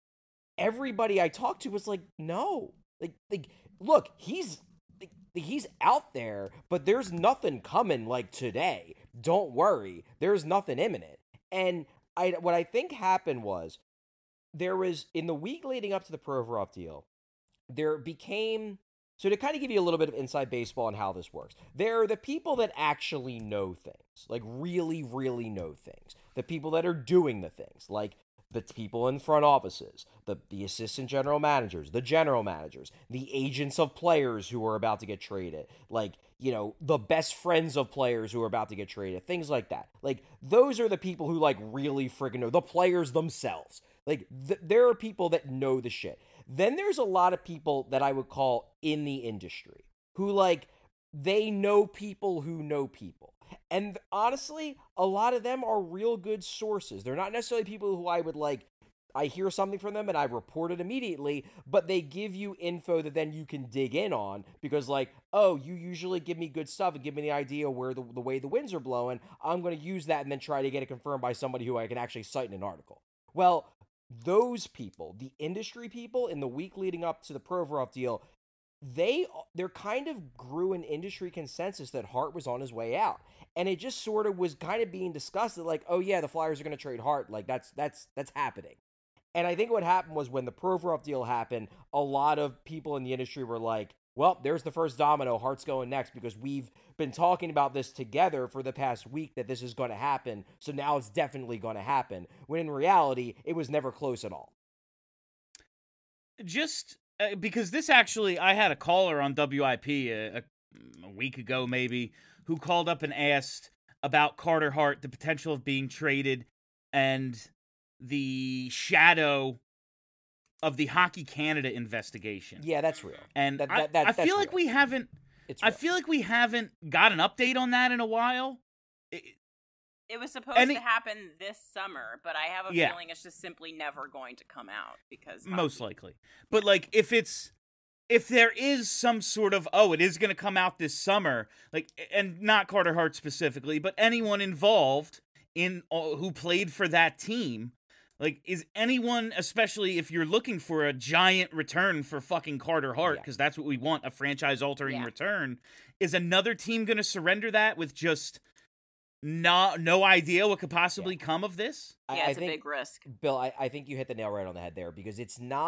everybody I talked to was like, no, like, like, look, he's, like, he's out there, but there's nothing coming like today. Don't worry, there's nothing imminent. And I, what I think happened was there was in the week leading up to the Provorov deal, there became. So to kind of give you a little bit of inside baseball on how this works, there are the people that actually know things, like really, really know things. The people that are doing the things, like the people in front offices, the, the assistant general managers, the general managers, the agents of players who are about to get traded, like, you know, the best friends of players who are about to get traded, things like that. Like, those are the people who, like, really freaking know, the players themselves. Like, th- there are people that know the shit. Then there's a lot of people that I would call in the industry who, like, they know people who know people. And honestly, a lot of them are real good sources. They're not necessarily people who I would, like, I hear something from them and I report it immediately, but they give you info that then you can dig in on because, like, oh, you usually give me good stuff and give me the idea where the, the way the winds are blowing. I'm going to use that and then try to get it confirmed by somebody who I can actually cite in an article. Well, those people, the industry people in the week leading up to the Provorov deal, they there kind of grew an industry consensus that Hart was on his way out. And it just sort of was kind of being discussed that, like, oh yeah, the Flyers are going to trade Hart. Like, that's that's that's happening. And I think what happened was when the Provorov deal happened, a lot of people in the industry were like, well, there's the first domino. Hart's going next because we've been talking about this together for the past week that this is going to happen. So now it's definitely going to happen. When in reality, it was never close at all. just uh, because this actually, I had a caller on W I P a, a, a week ago maybe who called up and asked about Carter Hart, the potential of being traded, and the shadow of the Hockey Canada investigation. Yeah, that's real. And That- I, that- that- I that's feel like real. we haven't. It's I real. feel like we haven't got an update on that in a while. It- It was supposed Any- to happen this summer, but I have a Yeah. feeling it's just simply never going to come out because Most hockey- likely. But, like, if it's, if there is some sort of, oh, it is going to come out this summer, like, and not Carter Hart specifically, but anyone involved in, uh, who played for that team, like, is anyone, especially if you're looking for a giant return for fucking Carter Hart, Yeah. because that's what we want, a franchise-altering Yeah. return, is another team going to surrender that with just no, no idea what could possibly come of this? I- Yeah, I it's a think- big risk. Bill, I, I think you hit the nail right on the head there because it's not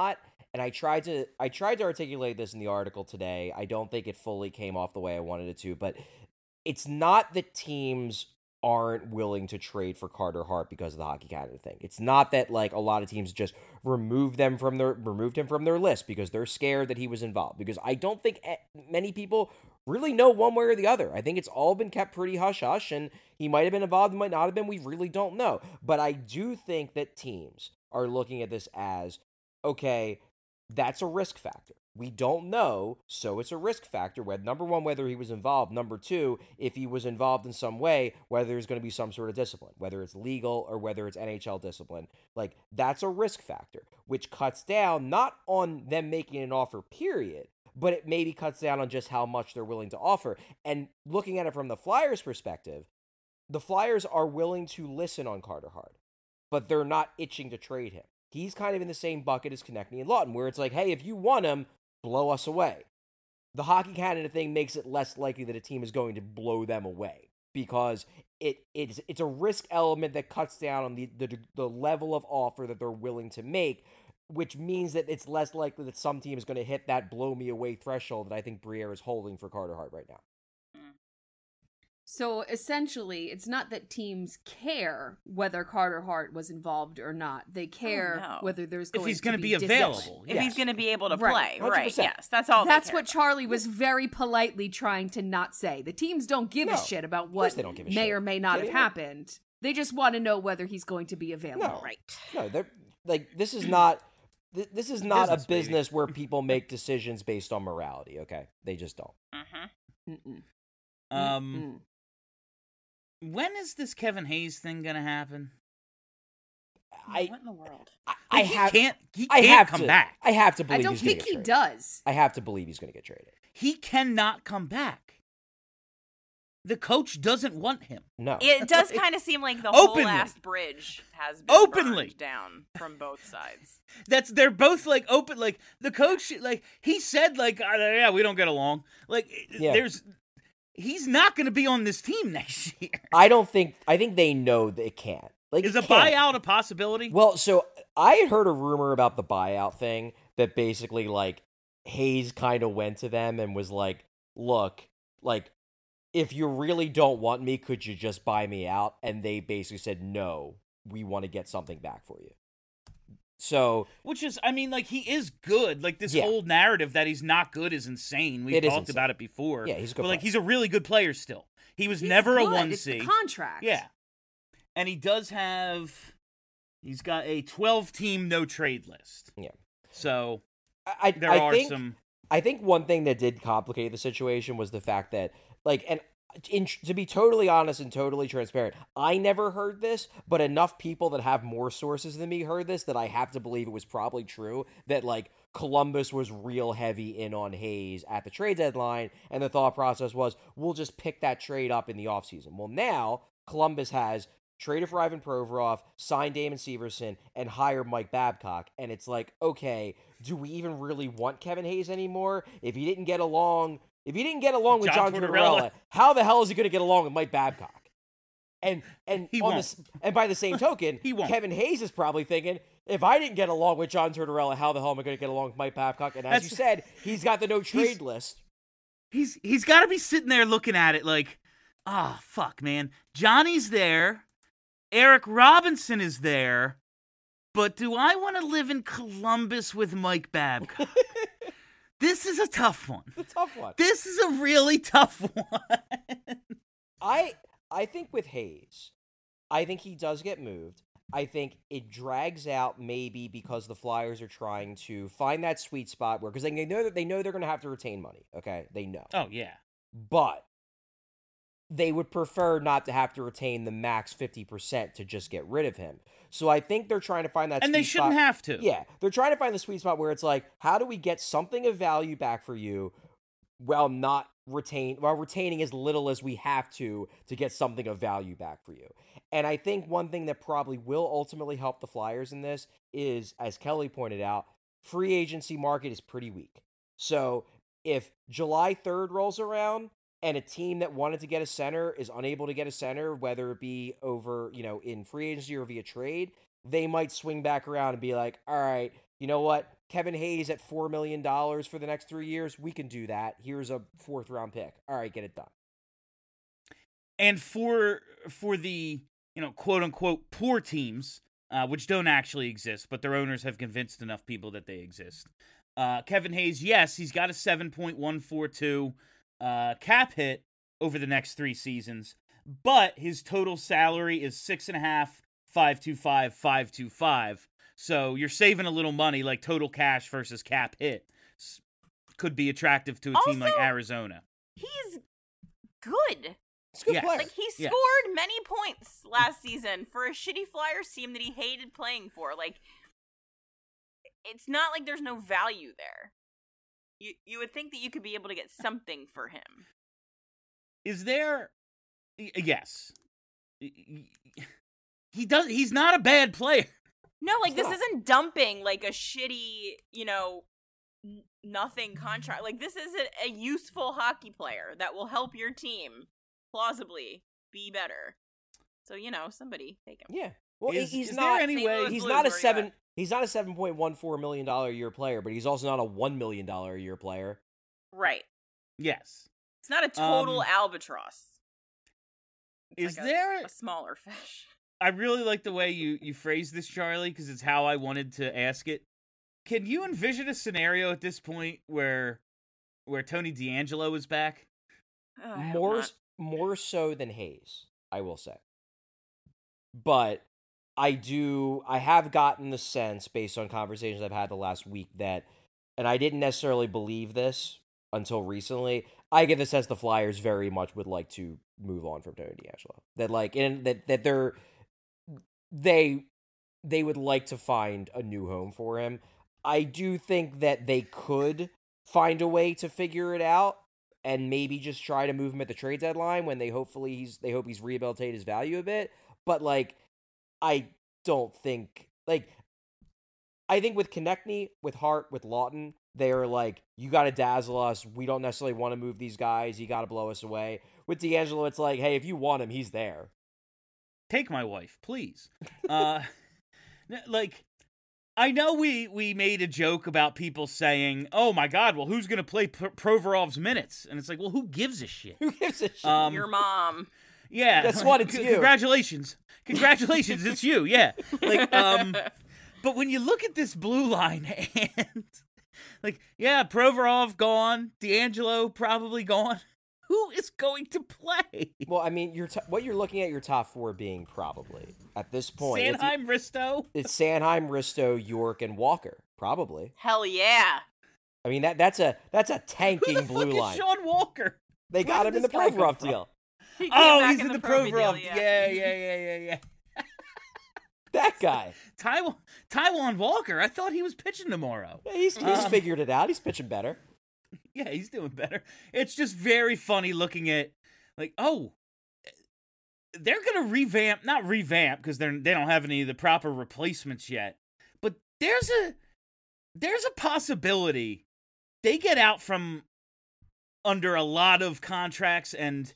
and I tried to I tried to articulate this in the article today. I don't think it fully came off the way I wanted it to, but it's not that teams aren't willing to trade for Carter Hart because of the Hockey Canada thing. It's not that like a lot of teams just removed them from their removed him from their list because they're scared that he was involved. Because I don't think many people really know one way or the other. I think it's all been kept pretty hush hush, and he might have been involved, he might not have been. We really don't know. But I do think that teams are looking at this as, okay, that's a risk factor. We don't know, so it's a risk factor. Whether, number one, whether he was involved. Number two, if he was involved in some way, whether there's going to be some sort of discipline, whether it's legal or whether it's N H L discipline. Like, that's a risk factor, which cuts down not on them making an offer, period, but it maybe cuts down on just how much they're willing to offer. And looking at it from the Flyers' perspective, the Flyers are willing to listen on Carter Hart, but they're not itching to trade him. He's kind of in the same bucket as Konechny and Lawton, where it's like, hey, if you want him, blow us away. The Hockey Canada thing makes it less likely that a team is going to blow them away because it it's it's a risk element that cuts down on the, the the level of offer that they're willing to make, which means that it's less likely that some team is going to hit that blow me away threshold that I think Briere is holding for Carter Hart right now. So essentially, it's not that teams care whether Carter Hart was involved or not. They care Oh, no. whether there's If going he's to gonna be be discipline. available. If Yes. he's going to be able to Right. play, one hundred right? percent. Yes, that's all. they That's care what about. Charlie was very politely trying to not say. The teams don't give No, a shit about course what they don't give a may shit. or may not Yeah, have yeah. happened. They just want to know whether he's going to be available. No. Right. No, they're like this is not th- this is not Business, a baby. business where people make decisions based on morality. Okay, they just don't. Mm-hmm. Mm-mm. Um, Mm-mm. when is this Kevin Hayes thing gonna happen? I what in the world? I, I He have can't. He I can't have come to back. I have to I believe don't he's gonna think get he traded. does. I have to believe he's going to get traded. He cannot come back. The coach doesn't want him. No. It does kind of seem like the Openly. whole last bridge has been Openly. burned down from both sides. That's they're both like open. Like the coach, like he said, like uh, yeah, we don't get along. Like Yeah. there's, he's not going to be on this team next year. I don't think I think they know they can't. Like Is it a can't. buyout a possibility? Well, so I had heard a rumor about the buyout thing that basically like Hayes kind of went to them and was like, "Look, like if you really don't want me, could you just buy me out?" And they basically said, "No, we want to get something back for you." So Which is, I mean, like he is good. Like this Yeah. whole narrative that he's not good is insane. We've It is talked insane. about it before. Yeah, he's a good But like player. he's a really good player still. He was He's never good. a one It's the C. contract. Yeah, and he does have. He's got a twelve-team no trade list. Yeah. So I, I, there I are think some. I think one thing that did complicate the situation was the fact that, like, and in, to be totally honest and totally transparent, I never heard this, but enough people that have more sources than me heard this that I have to believe it was probably true, that, like, Columbus was real heavy in on Hayes at the trade deadline, and the thought process was, we'll just pick that trade up in the offseason. Well, now Columbus has traded for Ivan Provorov, signed Damon Severson, and hired Mike Babcock. And it's like, okay, do we even really want Kevin Hayes anymore? If he didn't get along, if he didn't get along with John John Tortorella. Tortorella, how the hell is he going to get along with Mike Babcock? And and He on won't. this, and by the same token, He won't. Kevin Hayes is probably thinking, if I didn't get along with John Tortorella, how the hell am I going to get along with Mike Babcock? And as That's- you said, he's got the no trade He's- list. He's he's got to be sitting there looking at it like, ah, fuck, man. Johnny's there. Eric Robinson is there. But do I want to live in Columbus with Mike Babcock? This is a tough one. It's a tough one. This is a really tough one. I I think with Hayes, I think he does get moved. I think it drags out maybe because the Flyers are trying to find that sweet spot where because they know that they know they're going to have to retain money. Okay, they know, Oh, yeah. but they would prefer not to have to retain the max fifty percent to just get rid of him. So I think they're trying to find that And sweet they shouldn't spot. have to. Yeah, they're trying to find the sweet spot where it's like, how do we get something of value back for you while not retain while retaining as little as we have to to get something of value back for you. And I think one thing that probably will ultimately help the Flyers in this is, as Kelly pointed out, free agency market is pretty weak. So if July third rolls around and a team that wanted to get a center is unable to get a center, whether it be over, you know, in free agency or via trade, they might swing back around and be like, all right, you know what? Kevin Hayes at four million dollars for the next three years, we can do that. Here's a fourth round pick. All right, get it done. And for for the, you know, quote unquote poor teams, uh, which don't actually exist, but their owners have convinced enough people that they exist. Uh, Kevin Hayes, yes, he's got a seven point one four two uh, cap hit over the next three seasons, but his total salary is six and a half, five two five, five two five. So you're saving a little money, like total cash versus cap hit could be attractive to a Also, team like Arizona. He's good. It's a good Yeah. player. Like, he Yeah. scored many points last season for a shitty Flyers team that he hated playing for. Like, it's not like there's no value there. You you would think that you could be able to get something for him. Is there? y- Yes. Y- y- He does. He's not a bad player. No, like, It's this not. isn't dumping, like, a shitty, you know, n- nothing contract. Like, this is a, a useful hockey player that will help your team plausibly be better. So, you know, somebody take him. Yeah. Well, Is- he's is not. there any Saint way? Louis He's Blues, not a where you seven. at? He's not a seven point one four million dollar a year player, but he's also not a one million dollar a year player. Right. Yes. It's not a total Um, albatross. It's Is like a- there? a smaller fish? I really like the way you you phrase this, Charlie, because it's how I wanted to ask it. Can you envision a scenario at this point where where Tony DeAngelo is back? Oh, I hope more not. more so than Hayes, I will say. But I do I have gotten the sense based on conversations I've had the last week that, and I didn't necessarily believe this until recently, I get the sense the Flyers very much would like to move on from Tony DeAngelo. That like in that that they're they they would like to find a new home for him. I do think that they could find a way to figure it out and maybe just try to move him at the trade deadline when they hopefully he's they hope he's rehabilitated his value a bit. But like, I don't think like I think with Konechny, with Hart, with Lawton, they're like, you got to dazzle us. We don't necessarily want to move these guys. You got to blow us away. With DeAngelo, it's like, hey, if you want him, he's there. Take my wife, please. uh, n- like, I know we we made a joke about people saying, "Oh my God, well, who's gonna play P- Provorov's minutes?" And it's like, well, who gives a shit? Who gives a shit? Um, Your mom. Yeah, Guess what? It's c- you. Congratulations, congratulations, it's you. Yeah, like, um, but when you look at this blue line and like, yeah, Provorov gone, DeAngelo probably gone. Who is going to play? Well, I mean, you're t- what you're looking at your top four being probably at this point. it's- Sanheim, Risto. It's Sanheim, Risto, York, and Walker. Probably. Hell yeah. I mean that that's a that's a Who tanking the blue fuck line. is Sean Walker? They Where got did him in the this guy come Provorov from? deal. He came Oh, back he's in the Provi Provorov. deal, Yeah, yeah, yeah, yeah, yeah. That guy. Taiwan, Taiwan Walker. I thought he was pitching tomorrow. Yeah, he's he's Um, figured it out. He's pitching better. Yeah, he's doing better. It's just very funny looking at, like, oh, they're gonna revamp, not revamp because they're they don't have any of the proper replacements yet. But there's a there's a possibility they get out from under a lot of contracts and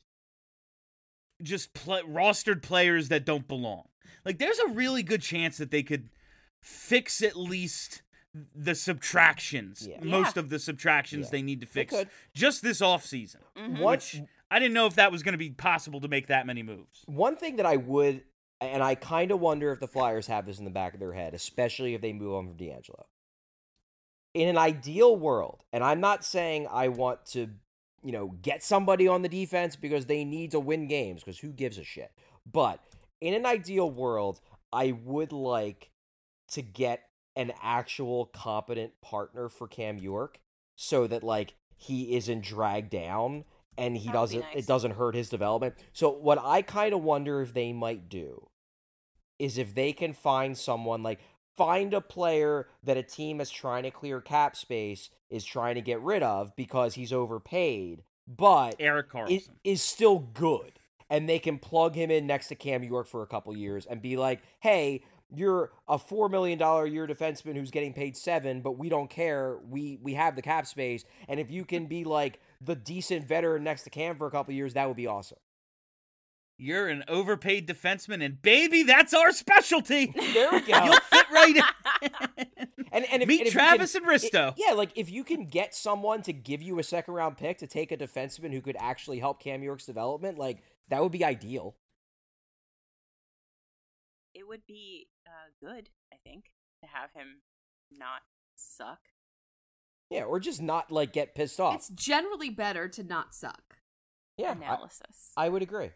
just play, rostered players that don't belong. Like, there's a really good chance that they could fix at least the subtractions, Yeah. most Yeah. of the subtractions Yeah. they need to They fix could. just this offseason. Mhm. One, Which I didn't know if that was going to be possible to make that many moves. one thing that I would, and I kind of wonder if the Flyers have this in the back of their head, especially if they move on from DeAngelo. In an ideal world, and I'm not saying I want to, you know, get somebody on the defense because they need to win games, because who gives a shit? But in an ideal world, I would like to get an actual competent partner for Cam York so that, like, he isn't dragged down and he That would be doesn't nice. it doesn't hurt his development. So what I kind of wonder if they might do is if they can find someone, like, find a player that a team that's trying to clear cap space is trying to get rid of because he's overpaid, but Eric is, Carlson. is still good. And they can plug him in next to Cam York for a couple years and be like, hey, you're a four million dollars a year defenseman who's getting paid seven, but we don't care. We we have the cap space. And if you can be like the decent veteran next to Cam for a couple years, that would be awesome. You're an overpaid defenseman, and baby, that's our specialty. There we go. You'll fit right in. And, and if, Meet and if you Travis can- and Risto. it- yeah, like if you can get someone to give you a second round pick to take a defenseman who could actually help Cam York's development, like that would be ideal. It would be uh, good, I think, to have him not suck. Yeah, or just not like get pissed off. It's generally better to not suck. yeah, I, Analysis. I would agree.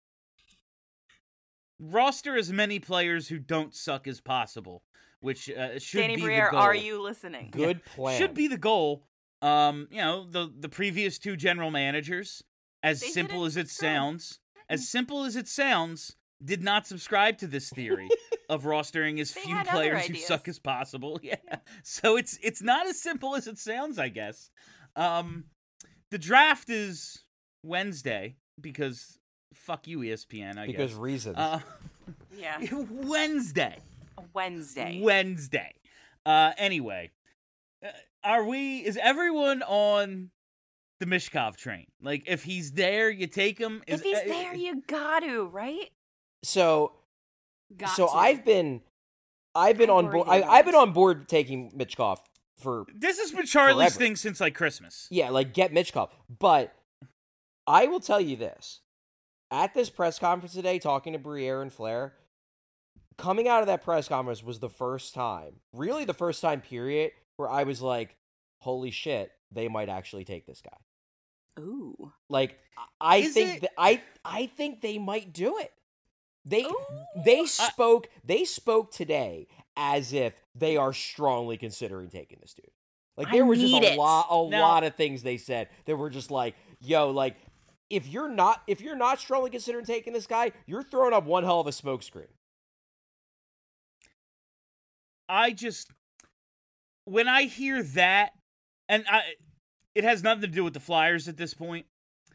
Roster as many players who don't suck as possible, which uh, should Danny be Briere, the goal. are you listening? Good plan. Should be the goal. Um, you know, the the previous two general managers, as They simple didn't as it subscribe. sounds, as simple as it sounds, did not subscribe to this theory of rostering as They few had other players who ideas. suck as possible. Yeah. So it's it's not as simple as it sounds, I guess. Um, the draft is Wednesday because fuck you, E S P N. I because guess. reasons. Uh, Yeah. Wednesday. Wednesday. Wednesday. Uh, anyway, uh, are we? Is everyone on the Mishkov train? Like, if he's there, you take him. Is, If he's uh, there, you got to, right? so Got so to. I've been I've been I on worry board. they I, I've been won't. on board taking Mitchkov for This has been Charlie's Forever. thing since like Christmas. yeah, like get Mitchkov. But I will tell you this: at this press conference today, talking to Briere and Flair, coming out of that press conference was the first time, really the first time, period, where I was like, "Holy shit, they might actually take this guy." Ooh. Like I Is think it- that I I think they might do it. They Ooh. they spoke they spoke today as if they are strongly considering taking this dude. Like there I was just need a it. lot a Now- lot of things they said that were just like, yo, like if you're not if you're not strongly considering taking this guy, you're throwing up one hell of a smokescreen. I just when I hear that, and I, it has nothing to do with the Flyers at this point.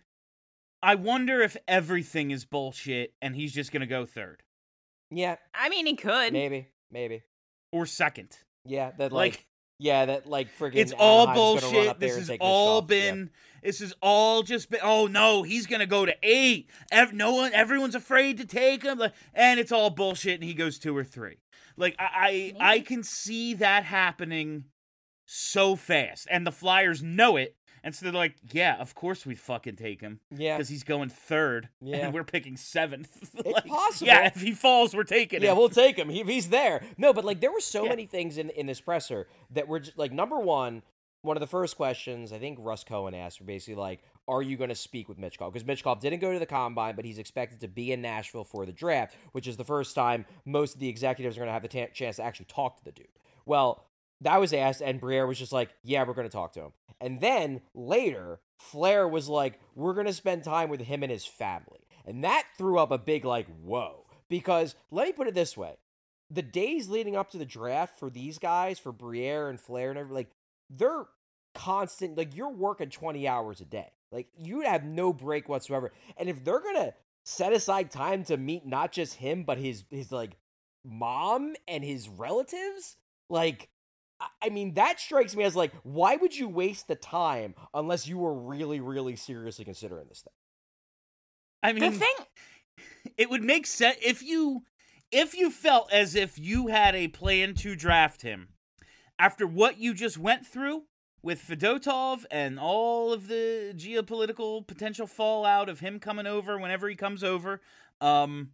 I wonder if everything is bullshit and he's just gonna go third Yeah, I mean, he could. maybe, maybe. or second. Yeah, that like, Like, yeah, that like friggin' it's all Anaheim's gonna run bullshit. up there This and has take all Mitchkov. been. This has all just been. Oh no, he's gonna go to eight. Ev- no one, everyone's afraid to take him, like, and it's all bullshit. And he goes two or three. Like I, I, I Maybe. can see that happening so fast, and the Flyers know it, and so they're like, "Yeah, of course we fucking take him Yeah, because he's going third, Yeah. and we're picking seventh. It's Like, possible. Yeah, if he falls, we're taking Yeah, him. we'll take him. He, he's there. No, but like there were so Yeah. many things in in this presser that were just, like number one. One of the first questions I think Russ Cohen asked were basically like, "Are you going to speak with Mitchkov?" Because Mitchkov didn't go to the combine, but he's expected to be in Nashville for the draft, which is the first time most of the executives are going to have the ta- chance to actually talk to the dude. Well, that was asked, and Briere was just like, "Yeah, we're going to talk to him." And then later, Flair was like, "We're going to spend time with him and his family," and that threw up a big like, "Whoa!" Because let me put it this way: the days leading up to the draft for these guys, for Briere and Flair and everything, like they're constant. Like you're working twenty hours a day. Like you have no break whatsoever. And if they're gonna set aside time to meet not just him but his his like mom and his relatives, like I- I mean that strikes me as like, why would you waste the time unless you were really really seriously considering this thing? I The mean, thing, it would make sense if you if you felt as if you had a plan to draft him after what you just went through with Fedotov and all of the geopolitical potential fallout of him coming over whenever he comes over. Um,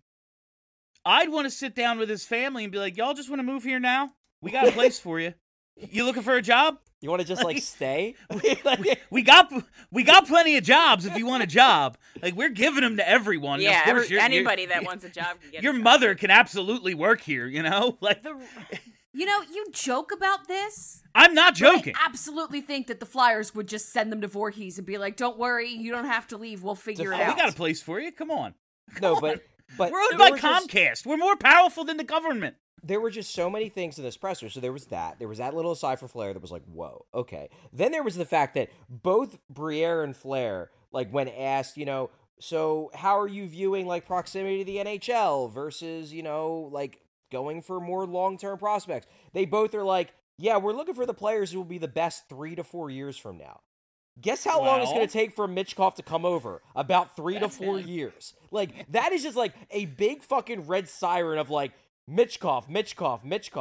I'd want to sit down with his family and be like, "Y'all just want to move here now? We got a place for you. You looking for a job? You want to just like Like- stay? we, we got we got plenty of jobs if you want a job. Like we're giving them to everyone. yeah, of course, every- you're- you're- anybody that wants a job can get your a job. mother can absolutely work here, you know? Like The, You know, you joke about this. I'm not but joking. I absolutely think that the Flyers would just send them to Voorhees and be like, "Don't worry, you don't have to leave. We'll figure it Oh, we out." got a place for you. Come on. No, but but We're owned there by were just- Comcast. We're more powerful than the government. there were just so many things in this presser. So there was that. There was that little aside for Flair that was like, whoa, okay. Then there was the fact that both Briere and Flair, like when asked, you know, so how are you viewing like proximity to the N H L versus, you know, like going for more long-term prospects? They both are like, yeah, we're looking for the players who will be the best three to four years from now. Guess how long it's Well- going to take for Mitchkov to come over? About three to four years. Like, that is just like a big fucking red siren of like, Mitchkov, Mitchkov, Mitchkov.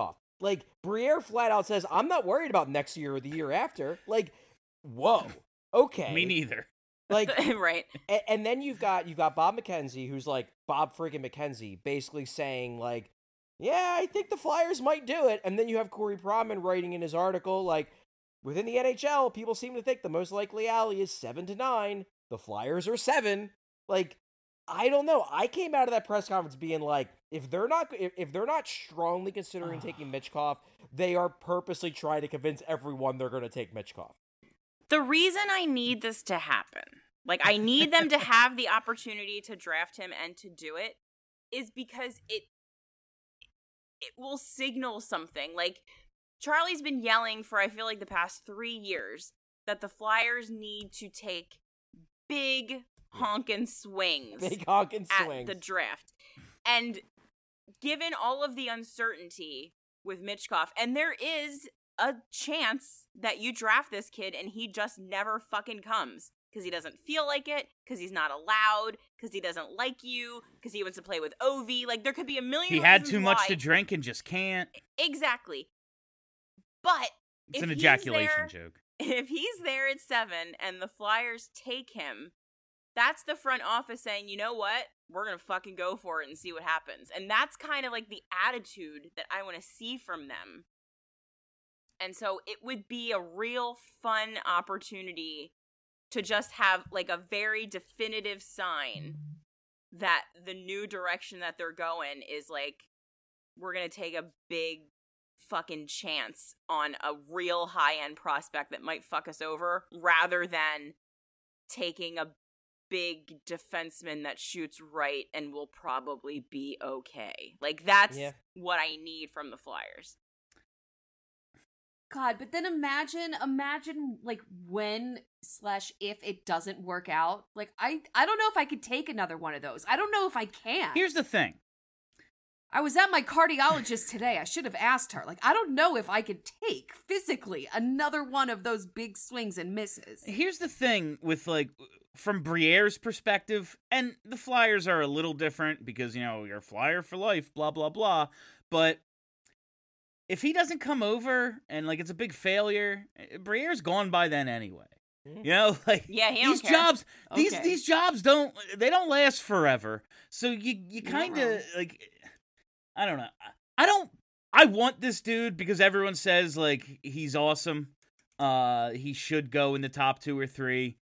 Like, Briere flat out says, I'm not worried about next year or the year after. Like, whoa. Okay. Me neither. Like, right. and, and then you've got you've got Bob McKenzie, who's like Bob freaking McKenzie, basically saying like, yeah, I think the Flyers might do it. And then you have Corey Pronman writing in his article like, within the N H L, people seem to think the most likely alley is seven to nine. The Flyers are seven. Like, I don't know. I came out of that press conference being like, if they're not if, if they're not strongly considering taking Michkov, they are purposely trying to convince everyone they're going to take Michkov. The reason I need this to happen, like I need them to have the opportunity to draft him and to do it, is because it it will signal something. Like, Charlie's been yelling for, I feel like, the past three years that the Flyers need to take big honkin' swings Big honkin' at swings. the draft. And given all of the uncertainty with Michkov, and there is a chance that you draft this kid and he just never fucking comes because he doesn't feel like it, because he's not allowed, because he doesn't like you, because he wants to play with Ovi. Like, there could be a million He had reasons too much why. to drink and just can't. Exactly. But It's if an he's ejaculation there- joke. If he's there at seven and the Flyers take him, that's the front office saying, you know what? We're going to fucking go for it and see what happens. And that's kind of like the attitude that I want to see from them. And so it would be a real fun opportunity to just have like a very definitive sign that the new direction that they're going is like, we're going to take a big fucking chance on a real high-end prospect that might fuck us over, rather than taking a big defenseman that shoots right and will probably be okay. Like, that's Yeah. what I need from the Flyers. God, but then imagine, imagine like when slash if it doesn't work out. Like, I, I don't know if I could take another one of those. I don't know if I can. Here's the thing. I was at my cardiologist today. I should have asked her. Like, I don't know if I could take physically another one of those big swings and misses. Here's the thing with, like, from Briere's perspective, and the Flyers are a little different because, you know, you're a Flyer for life, blah, blah, blah. But if he doesn't come over and, like, it's a big failure, Briere's gone by then anyway. You know, like, Yeah, he don't these care. jobs, these Okay. these jobs don't, they don't last forever. So you, you kind wrong. of, like, I don't know. I don't, I want this dude because everyone says, like, he's awesome. Uh, he should go in the top two or three.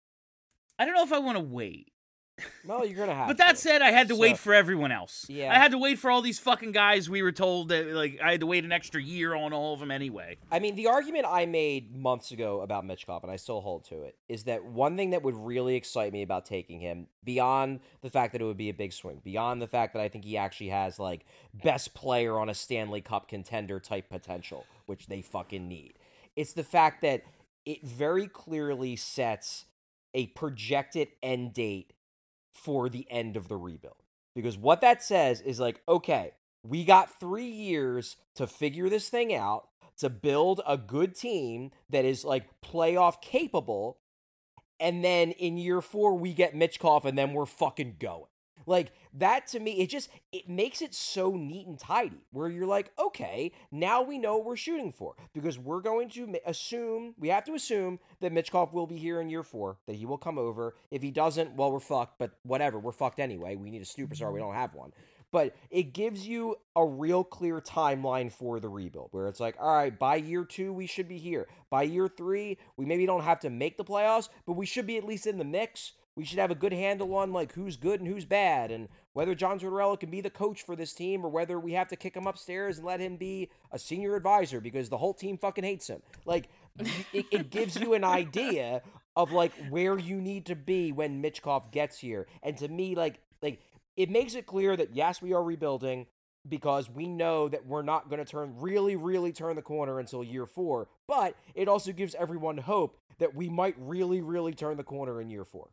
I don't know if I want to wait. Well, you're gonna have. But that to. said, I had to So- wait for everyone else. Yeah. I had to wait for all these fucking guys we were told that, like, I had to wait an extra year on all of them anyway. I mean, the argument I made months ago about Michkov, and I still hold to it, is that one thing that would really excite me about taking him, beyond the fact that it would be a big swing, beyond the fact that I think he actually has, like, best player on a Stanley Cup contender type potential, which they fucking need, it's the fact that it very clearly sets a projected end date for the end of the rebuild. Because what that says is like, okay, we got three years to figure this thing out, to build a good team that is like playoff capable, and then in year four we get Michkov and then we're fucking going. Like, that to me, it just, it makes it so neat and tidy, where you're like, okay, now we know what we're shooting for, because we're going to assume, we have to assume that Michkov will be here in year four, that he will come over. If he doesn't, well, we're fucked, but whatever, we're fucked anyway. We need a superstar, we don't have one. But it gives you a real clear timeline for the rebuild, where it's like, all right, by year two, we should be here. By year three, we maybe don't have to make the playoffs, but we should be at least in the mix. We should have a good handle on, like, who's good and who's bad, and whether John Tortorella can be the coach for this team, or whether we have to kick him upstairs and let him be a senior advisor because the whole team fucking hates him. Like, it, it gives you an idea of, like, where you need to be when Michkov gets here. And to me, like, like it makes it clear that, yes, we are rebuilding, because we know that we're not going to turn really, really turn the corner until year four. But it also gives everyone hope that we might really, really turn the corner in year four.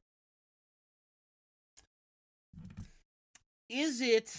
Is it,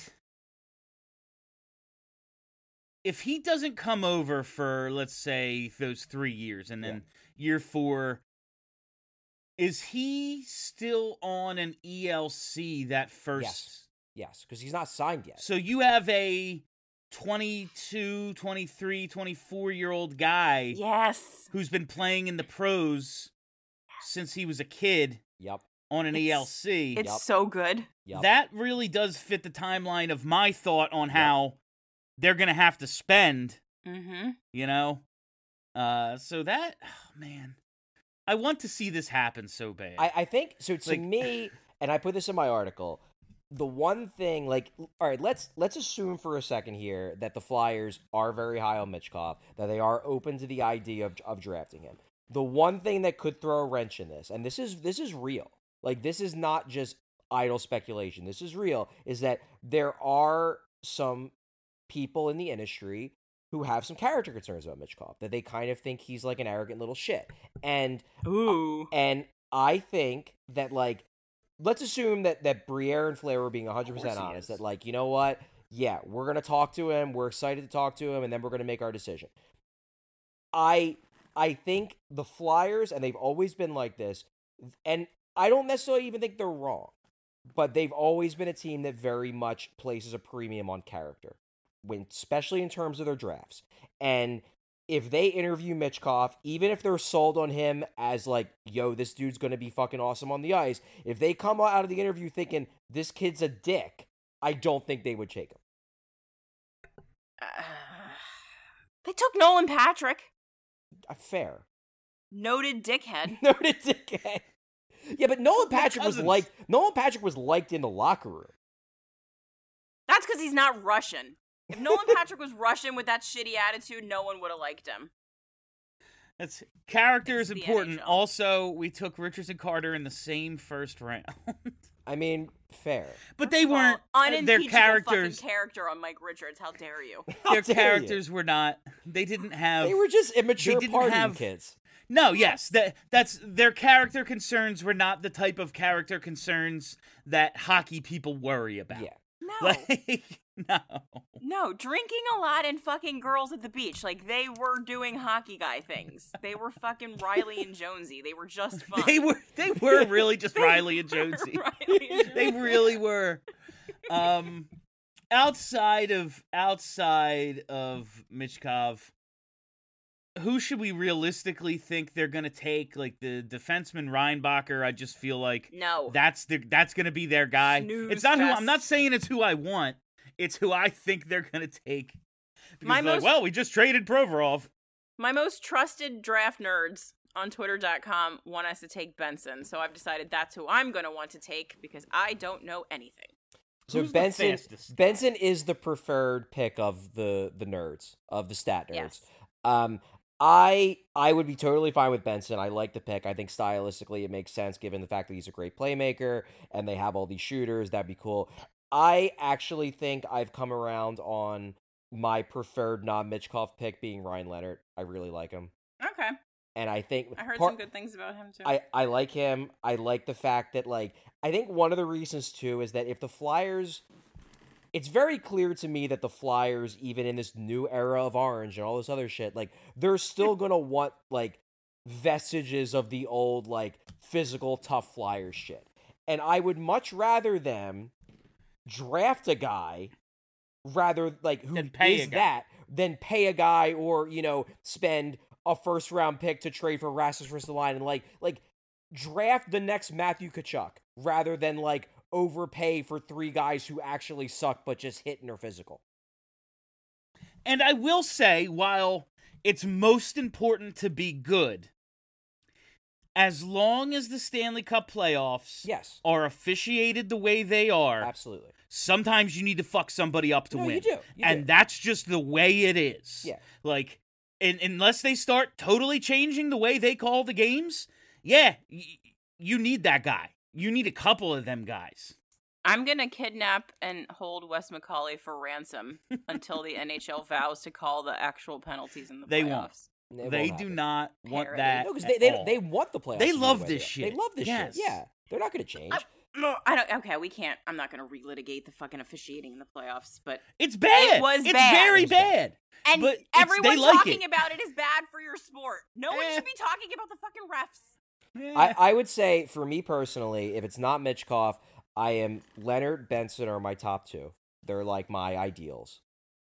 if he doesn't come over for, let's say, those three years, and then year four, is he still on an E L C that first? Yes. Yes, because he's not signed yet. So you have a twenty-two, twenty-three, twenty-four year old guy Yes. who's been playing in the pros since he was a kid Yep. on an It's- E L C. It's Yup. so good. Yep. That really does fit the timeline of my thought on how they're going to have to spend, Mm-hmm. you know? Uh, so that, oh, man, I want to see this happen so bad. I, I think so. To Like- me, and I put this in my article. The one thing, like, all right, let's let's assume for a second here that the Flyers are very high on Michkov, that they are open to the idea of of drafting him. The one thing that could throw a wrench in this, and this is this is real, like this is not just idle speculation. This is real. Is that there are some people in the industry who have some character concerns about Michkov, that they kind of think he's like an arrogant little shit, and Ooh. and I think that, like, let's assume that, that Briere and Flair were being one hundred percent Of course he honest. is. That, like, you know what? Yeah, we're going to talk to him. We're excited to talk to him, and then we're going to make our decision. I I think the Flyers, and they've always been like this, and I don't necessarily even think they're wrong, but they've always been a team that very much places a premium on character, when especially in terms of their drafts. And if they interview Michkov, even if they're sold on him as like, yo, this dude's going to be fucking awesome on the ice, if they come out of the interview thinking this kid's a dick, I don't think they would take him. Uh, they took Nolan Patrick. Uh, fair. Noted dickhead. Noted dickhead. Yeah, but Nolan They're Patrick was cousins. liked. Nolan Patrick was liked in the locker room. That's because he's not Russian. If Nolan Patrick was Russian with that shitty attitude, no one would have liked him. That's character It's is the important. N H L. Also, we took Richardson Carter in the same first round. I mean, fair. But they weren't Well, uh, their unimpeachable characters. fucking character on Mike Richards. How dare you? How Their dare you. characters were not. They didn't have. They were just immature didn't partying have- kids. No, yes, that that's their character concerns were not the type of character concerns that hockey people worry about. Yeah. No. Like, no. No, drinking a lot and fucking girls at the beach. Like, they were doing hockey guy things. They were fucking Riley and Jonesy. They were just fun. They were they were really just Riley and Jonesy. Riley and They Jonesy. really were. Um outside of outside of Michkov, who should we realistically think they're gonna take? Like the defenseman Reinbacher, I just feel like No. that's the that's gonna be their guy. Snooze it's not who fest. I'm not saying it's who I want. It's who I think they're gonna take. Because My they're like, most- well, we just traded Provorov. My most trusted draft nerds on twitter dot com want us to take Benson, so I've decided that's who I'm going to want to take because I don't know anything. So Who's the Benson fastest? Benson is the preferred pick of the the nerds, of the stat nerds. Yes. Um I I would be totally fine with Benson. I like the pick. I think stylistically it makes sense given the fact that he's a great playmaker and they have all these shooters. That'd be cool. I actually think I've come around on my preferred non-Michkov pick being Ryan Leonard. I really like him. Okay. And I think I heard part- some good things about him too. I, I like him. I like the fact that, like, I think one of the reasons, too, is that if the Flyers... It's very clear to me that the Flyers, even in this new era of orange and all this other shit, like, they're still going to want, like, vestiges of the old, like, physical, tough Flyers shit. And I would much rather them draft a guy rather, like, who Than pay a is guy. that, than pay a guy or, you know, spend a first round pick to trade for Rasmus Ristolainen and like like draft the next Matthew Tkachuk rather than like overpay for three guys who actually suck but just hit and are physical. And I will say, while it's most important to be good, as long as the Stanley Cup playoffs Yes, are officiated the way they are, absolutely. sometimes you need to fuck somebody up to No, win. you do. You and do. that's just the way it is. Yeah. Like, in, unless they start totally changing the way they call the games, yeah, y- you need that guy. You need a couple of them guys. I'm going to kidnap and hold Wes McCauley for ransom until the N H L vows to call the actual penalties in the They playoffs. won't. It They won't do happen. not want Parody. that. No, because at they, they all. they want the playoffs. They to be love the way this they are. shit. They love this Yes. shit. Yeah, they're not going to change. I- No, I don't. Okay, we can't. I'm not going to relitigate the fucking officiating in the playoffs, but It's bad. It was it's bad. very It was bad. bad. and But it's- everyone they like talking it. about it is bad for your sport. No one Eh. should be talking about the fucking refs. I, I would say, for me personally, if it's not Michkov, I am Leonard, Benson are my top two. They're like my ideals.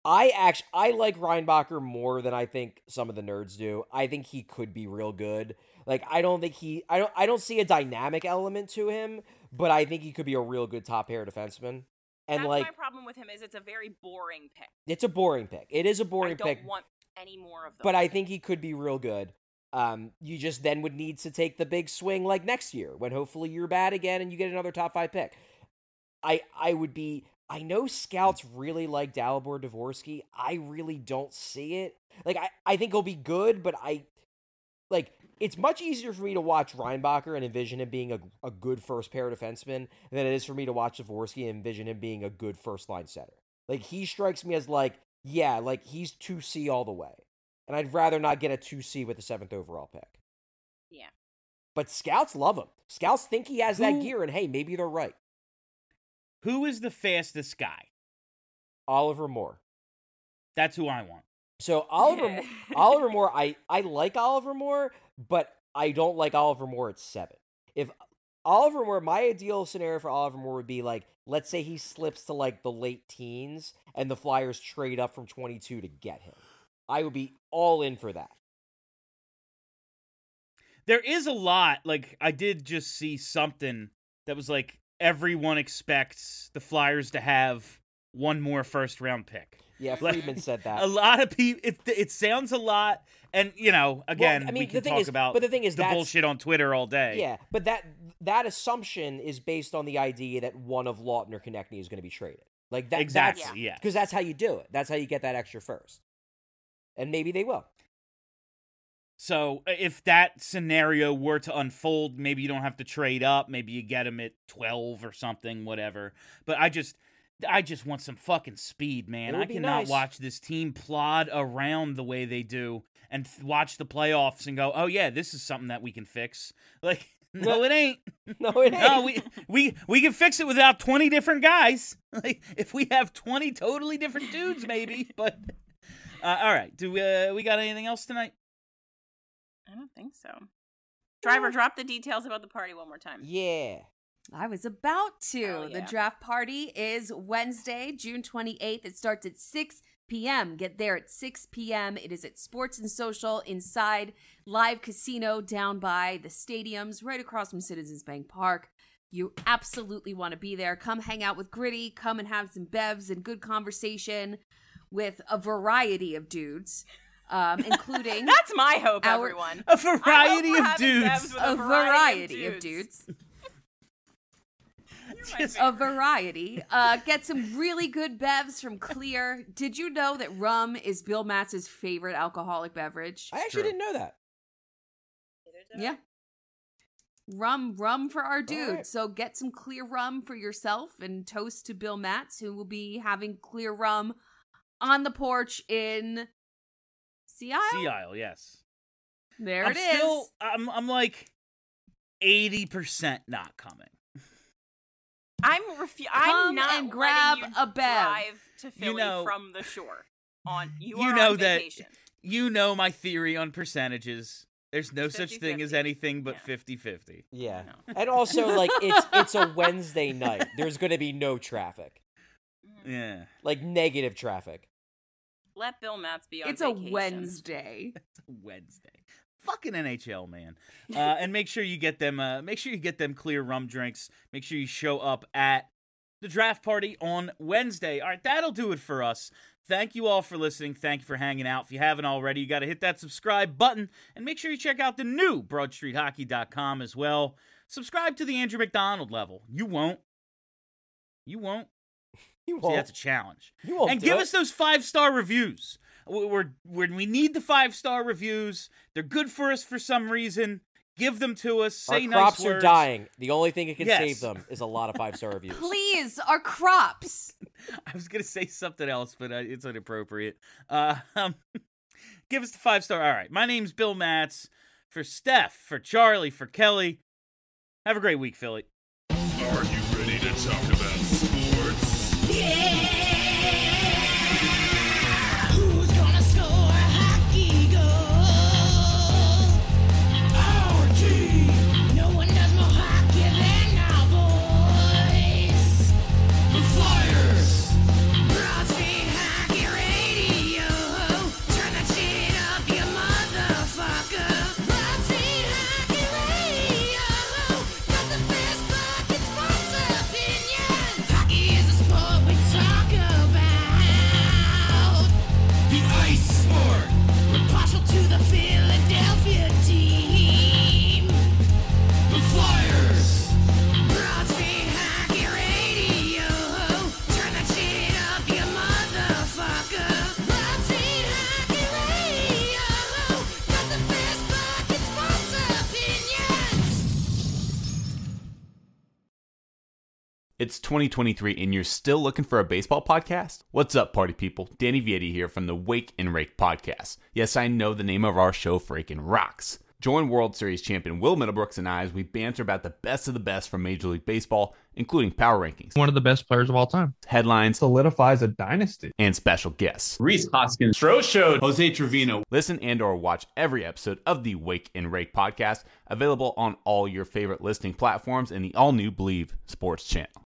I actually I like Reinbacher more than I think some of the nerds do. I think he could be real good. Like I don't think he I don't I don't see a dynamic element to him, but I think he could be a real good top pair defenseman. And That's like my problem with him is it's a very boring pick. it's a boring pick. It is a I boring don't pick, want any more of them. but I think he could be real good. Um, you just then would need to take the big swing like next year when hopefully you're bad again and you get another top five pick. I I would be. I know scouts really like Dalibor Dvorsky. I really don't see it. Like I, I think he'll be good, but I like it's much easier for me to watch Reinbacher and envision him being a, a good first pair defenseman than it is for me to watch Dvorsky and envision him being a good first line center. Like he strikes me as like, yeah, like he's two C all the way. And I'd rather not get a two C with the seventh overall pick. Yeah. But scouts love him. Scouts think he has that Who- gear, and hey, maybe they're right. Who is the fastest guy? Oliver Moore. That's who I want. So Oliver Oliver Moore, I, I like Oliver Moore, but I don't like Oliver Moore at seven. If Oliver Moore, my ideal scenario for Oliver Moore would be like, let's say he slips to like the late teens and the Flyers trade up from twenty-two to get him. I would be all in for that. There is a lot, like, I did just see something that was like, everyone expects the Flyers to have one more first round pick. Yeah, Like, Friedman said that. A lot of people, it, it sounds a lot, and, you know, again, Well, I mean, we the can thing talk is- about but the thing is the that's- bullshit on Twitter all day. Yeah, but that that assumption is based on the idea that one of Lawton or Konechny is going to be traded. Like that, Exactly, yeah. Because that's how you do it. That's how you get that extra first. And maybe they will. So if that scenario were to unfold, maybe you don't have to trade up. Maybe you get him at twelve or something, whatever. But I just, I just want some fucking speed, man. It would I be cannot nice. watch this team plod around the way they do and th- watch the playoffs and go, oh yeah, this is something that we can fix. Like, no, it ain't. No, it ain't. No, we we we can fix it without twenty different guys. Like, if we have twenty totally different dudes, maybe. But uh, all right, do uh, we got anything else tonight? I don't think so. Driver, drop the details about the party one more time. Yeah. I was about to. Hell The yeah. draft party is Wednesday, June twenty-eighth. It starts at six p.m. Get there at six p.m. It is at Sports and Social inside Live Casino down by the stadiums right across from Citizens Bank Park. You absolutely want to be there. Come hang out with Gritty. Come and have some bevs and good conversation with a variety of dudes, um, including That's my hope, Our- everyone. A variety we're of having dudes. Bevs with a variety of dudes. You're my Just- A favorite. variety. Uh, get some really good bevs from Clear. Did you know that rum is Bill Matz's favorite alcoholic beverage? I actually True. didn't know that. Yeah. Rum, rum for our dude. right. So get some Clear rum for yourself and toast to Bill Matz, who will be having Clear rum on the porch in Sea Isle. Sea Isle, yes. There I'm it is. still, I'm, I'm like eighty percent not coming. I'm refu- I'm Come not and grab letting you a bev. drive to Philly know- from the shore. On you, You are know on that- vacation. You know my theory on percentages. There's no such thing as fifty-fifty. anything but Yeah. fifty-fifty. Yeah. know. And also, like, it's it's a Wednesday night. There's going to be no traffic. Yeah. Like, negative traffic. Let Bill Matz be on It's a vacation. Wednesday. Wednesday. Fucking N H L, man. Uh, and make sure you get them. Uh, make sure you get them Clear rum drinks. Make sure you show up at the draft party on Wednesday. All right, that'll do it for us. Thank you all for listening. Thank you for hanging out. If you haven't already, you got to hit that subscribe button and make sure you check out the new broad street hockey dot com as well. Subscribe to the Andrew McDonald level. You won't. You won't. You See, won't. that's a challenge. You won't And do give it. us those five-star reviews. We're, we're, when we need the five-star reviews, they're good for us for some reason. Give them to us. Say Our nice crops are words. dying. The only thing that can Yes. save them is a lot of five-star reviews. Please, our crops. I was going to say something else, but uh, it's inappropriate. Uh, um, give us the five-star. All right. My name's Bill Matz. For Steph, for Charlie, for Kelly. Have a great week, Philly. Are you ready to talk about sports? Who's gonna score a hockey goal? Our team. No one does more hockey than our boys. The Flyers. Broad Street Hockey Radio. It's twenty twenty-three and you're still looking for a baseball podcast? What's up, party people? Danny Vietti here from the Wake and Rake podcast. Yes, I know the name of our show freaking rocks. Join World Series champion Will Middlebrooks and I as we banter about the best of the best from Major League Baseball, including power rankings, one of the best players of all time, headlines, solidifies a dynasty, and special guests. Rhys Hoskins, Stro Show, Jose Trevino. Listen and or watch every episode of the Wake and Rake podcast, available on all your favorite listening platforms and the all-new Believe Sports channel.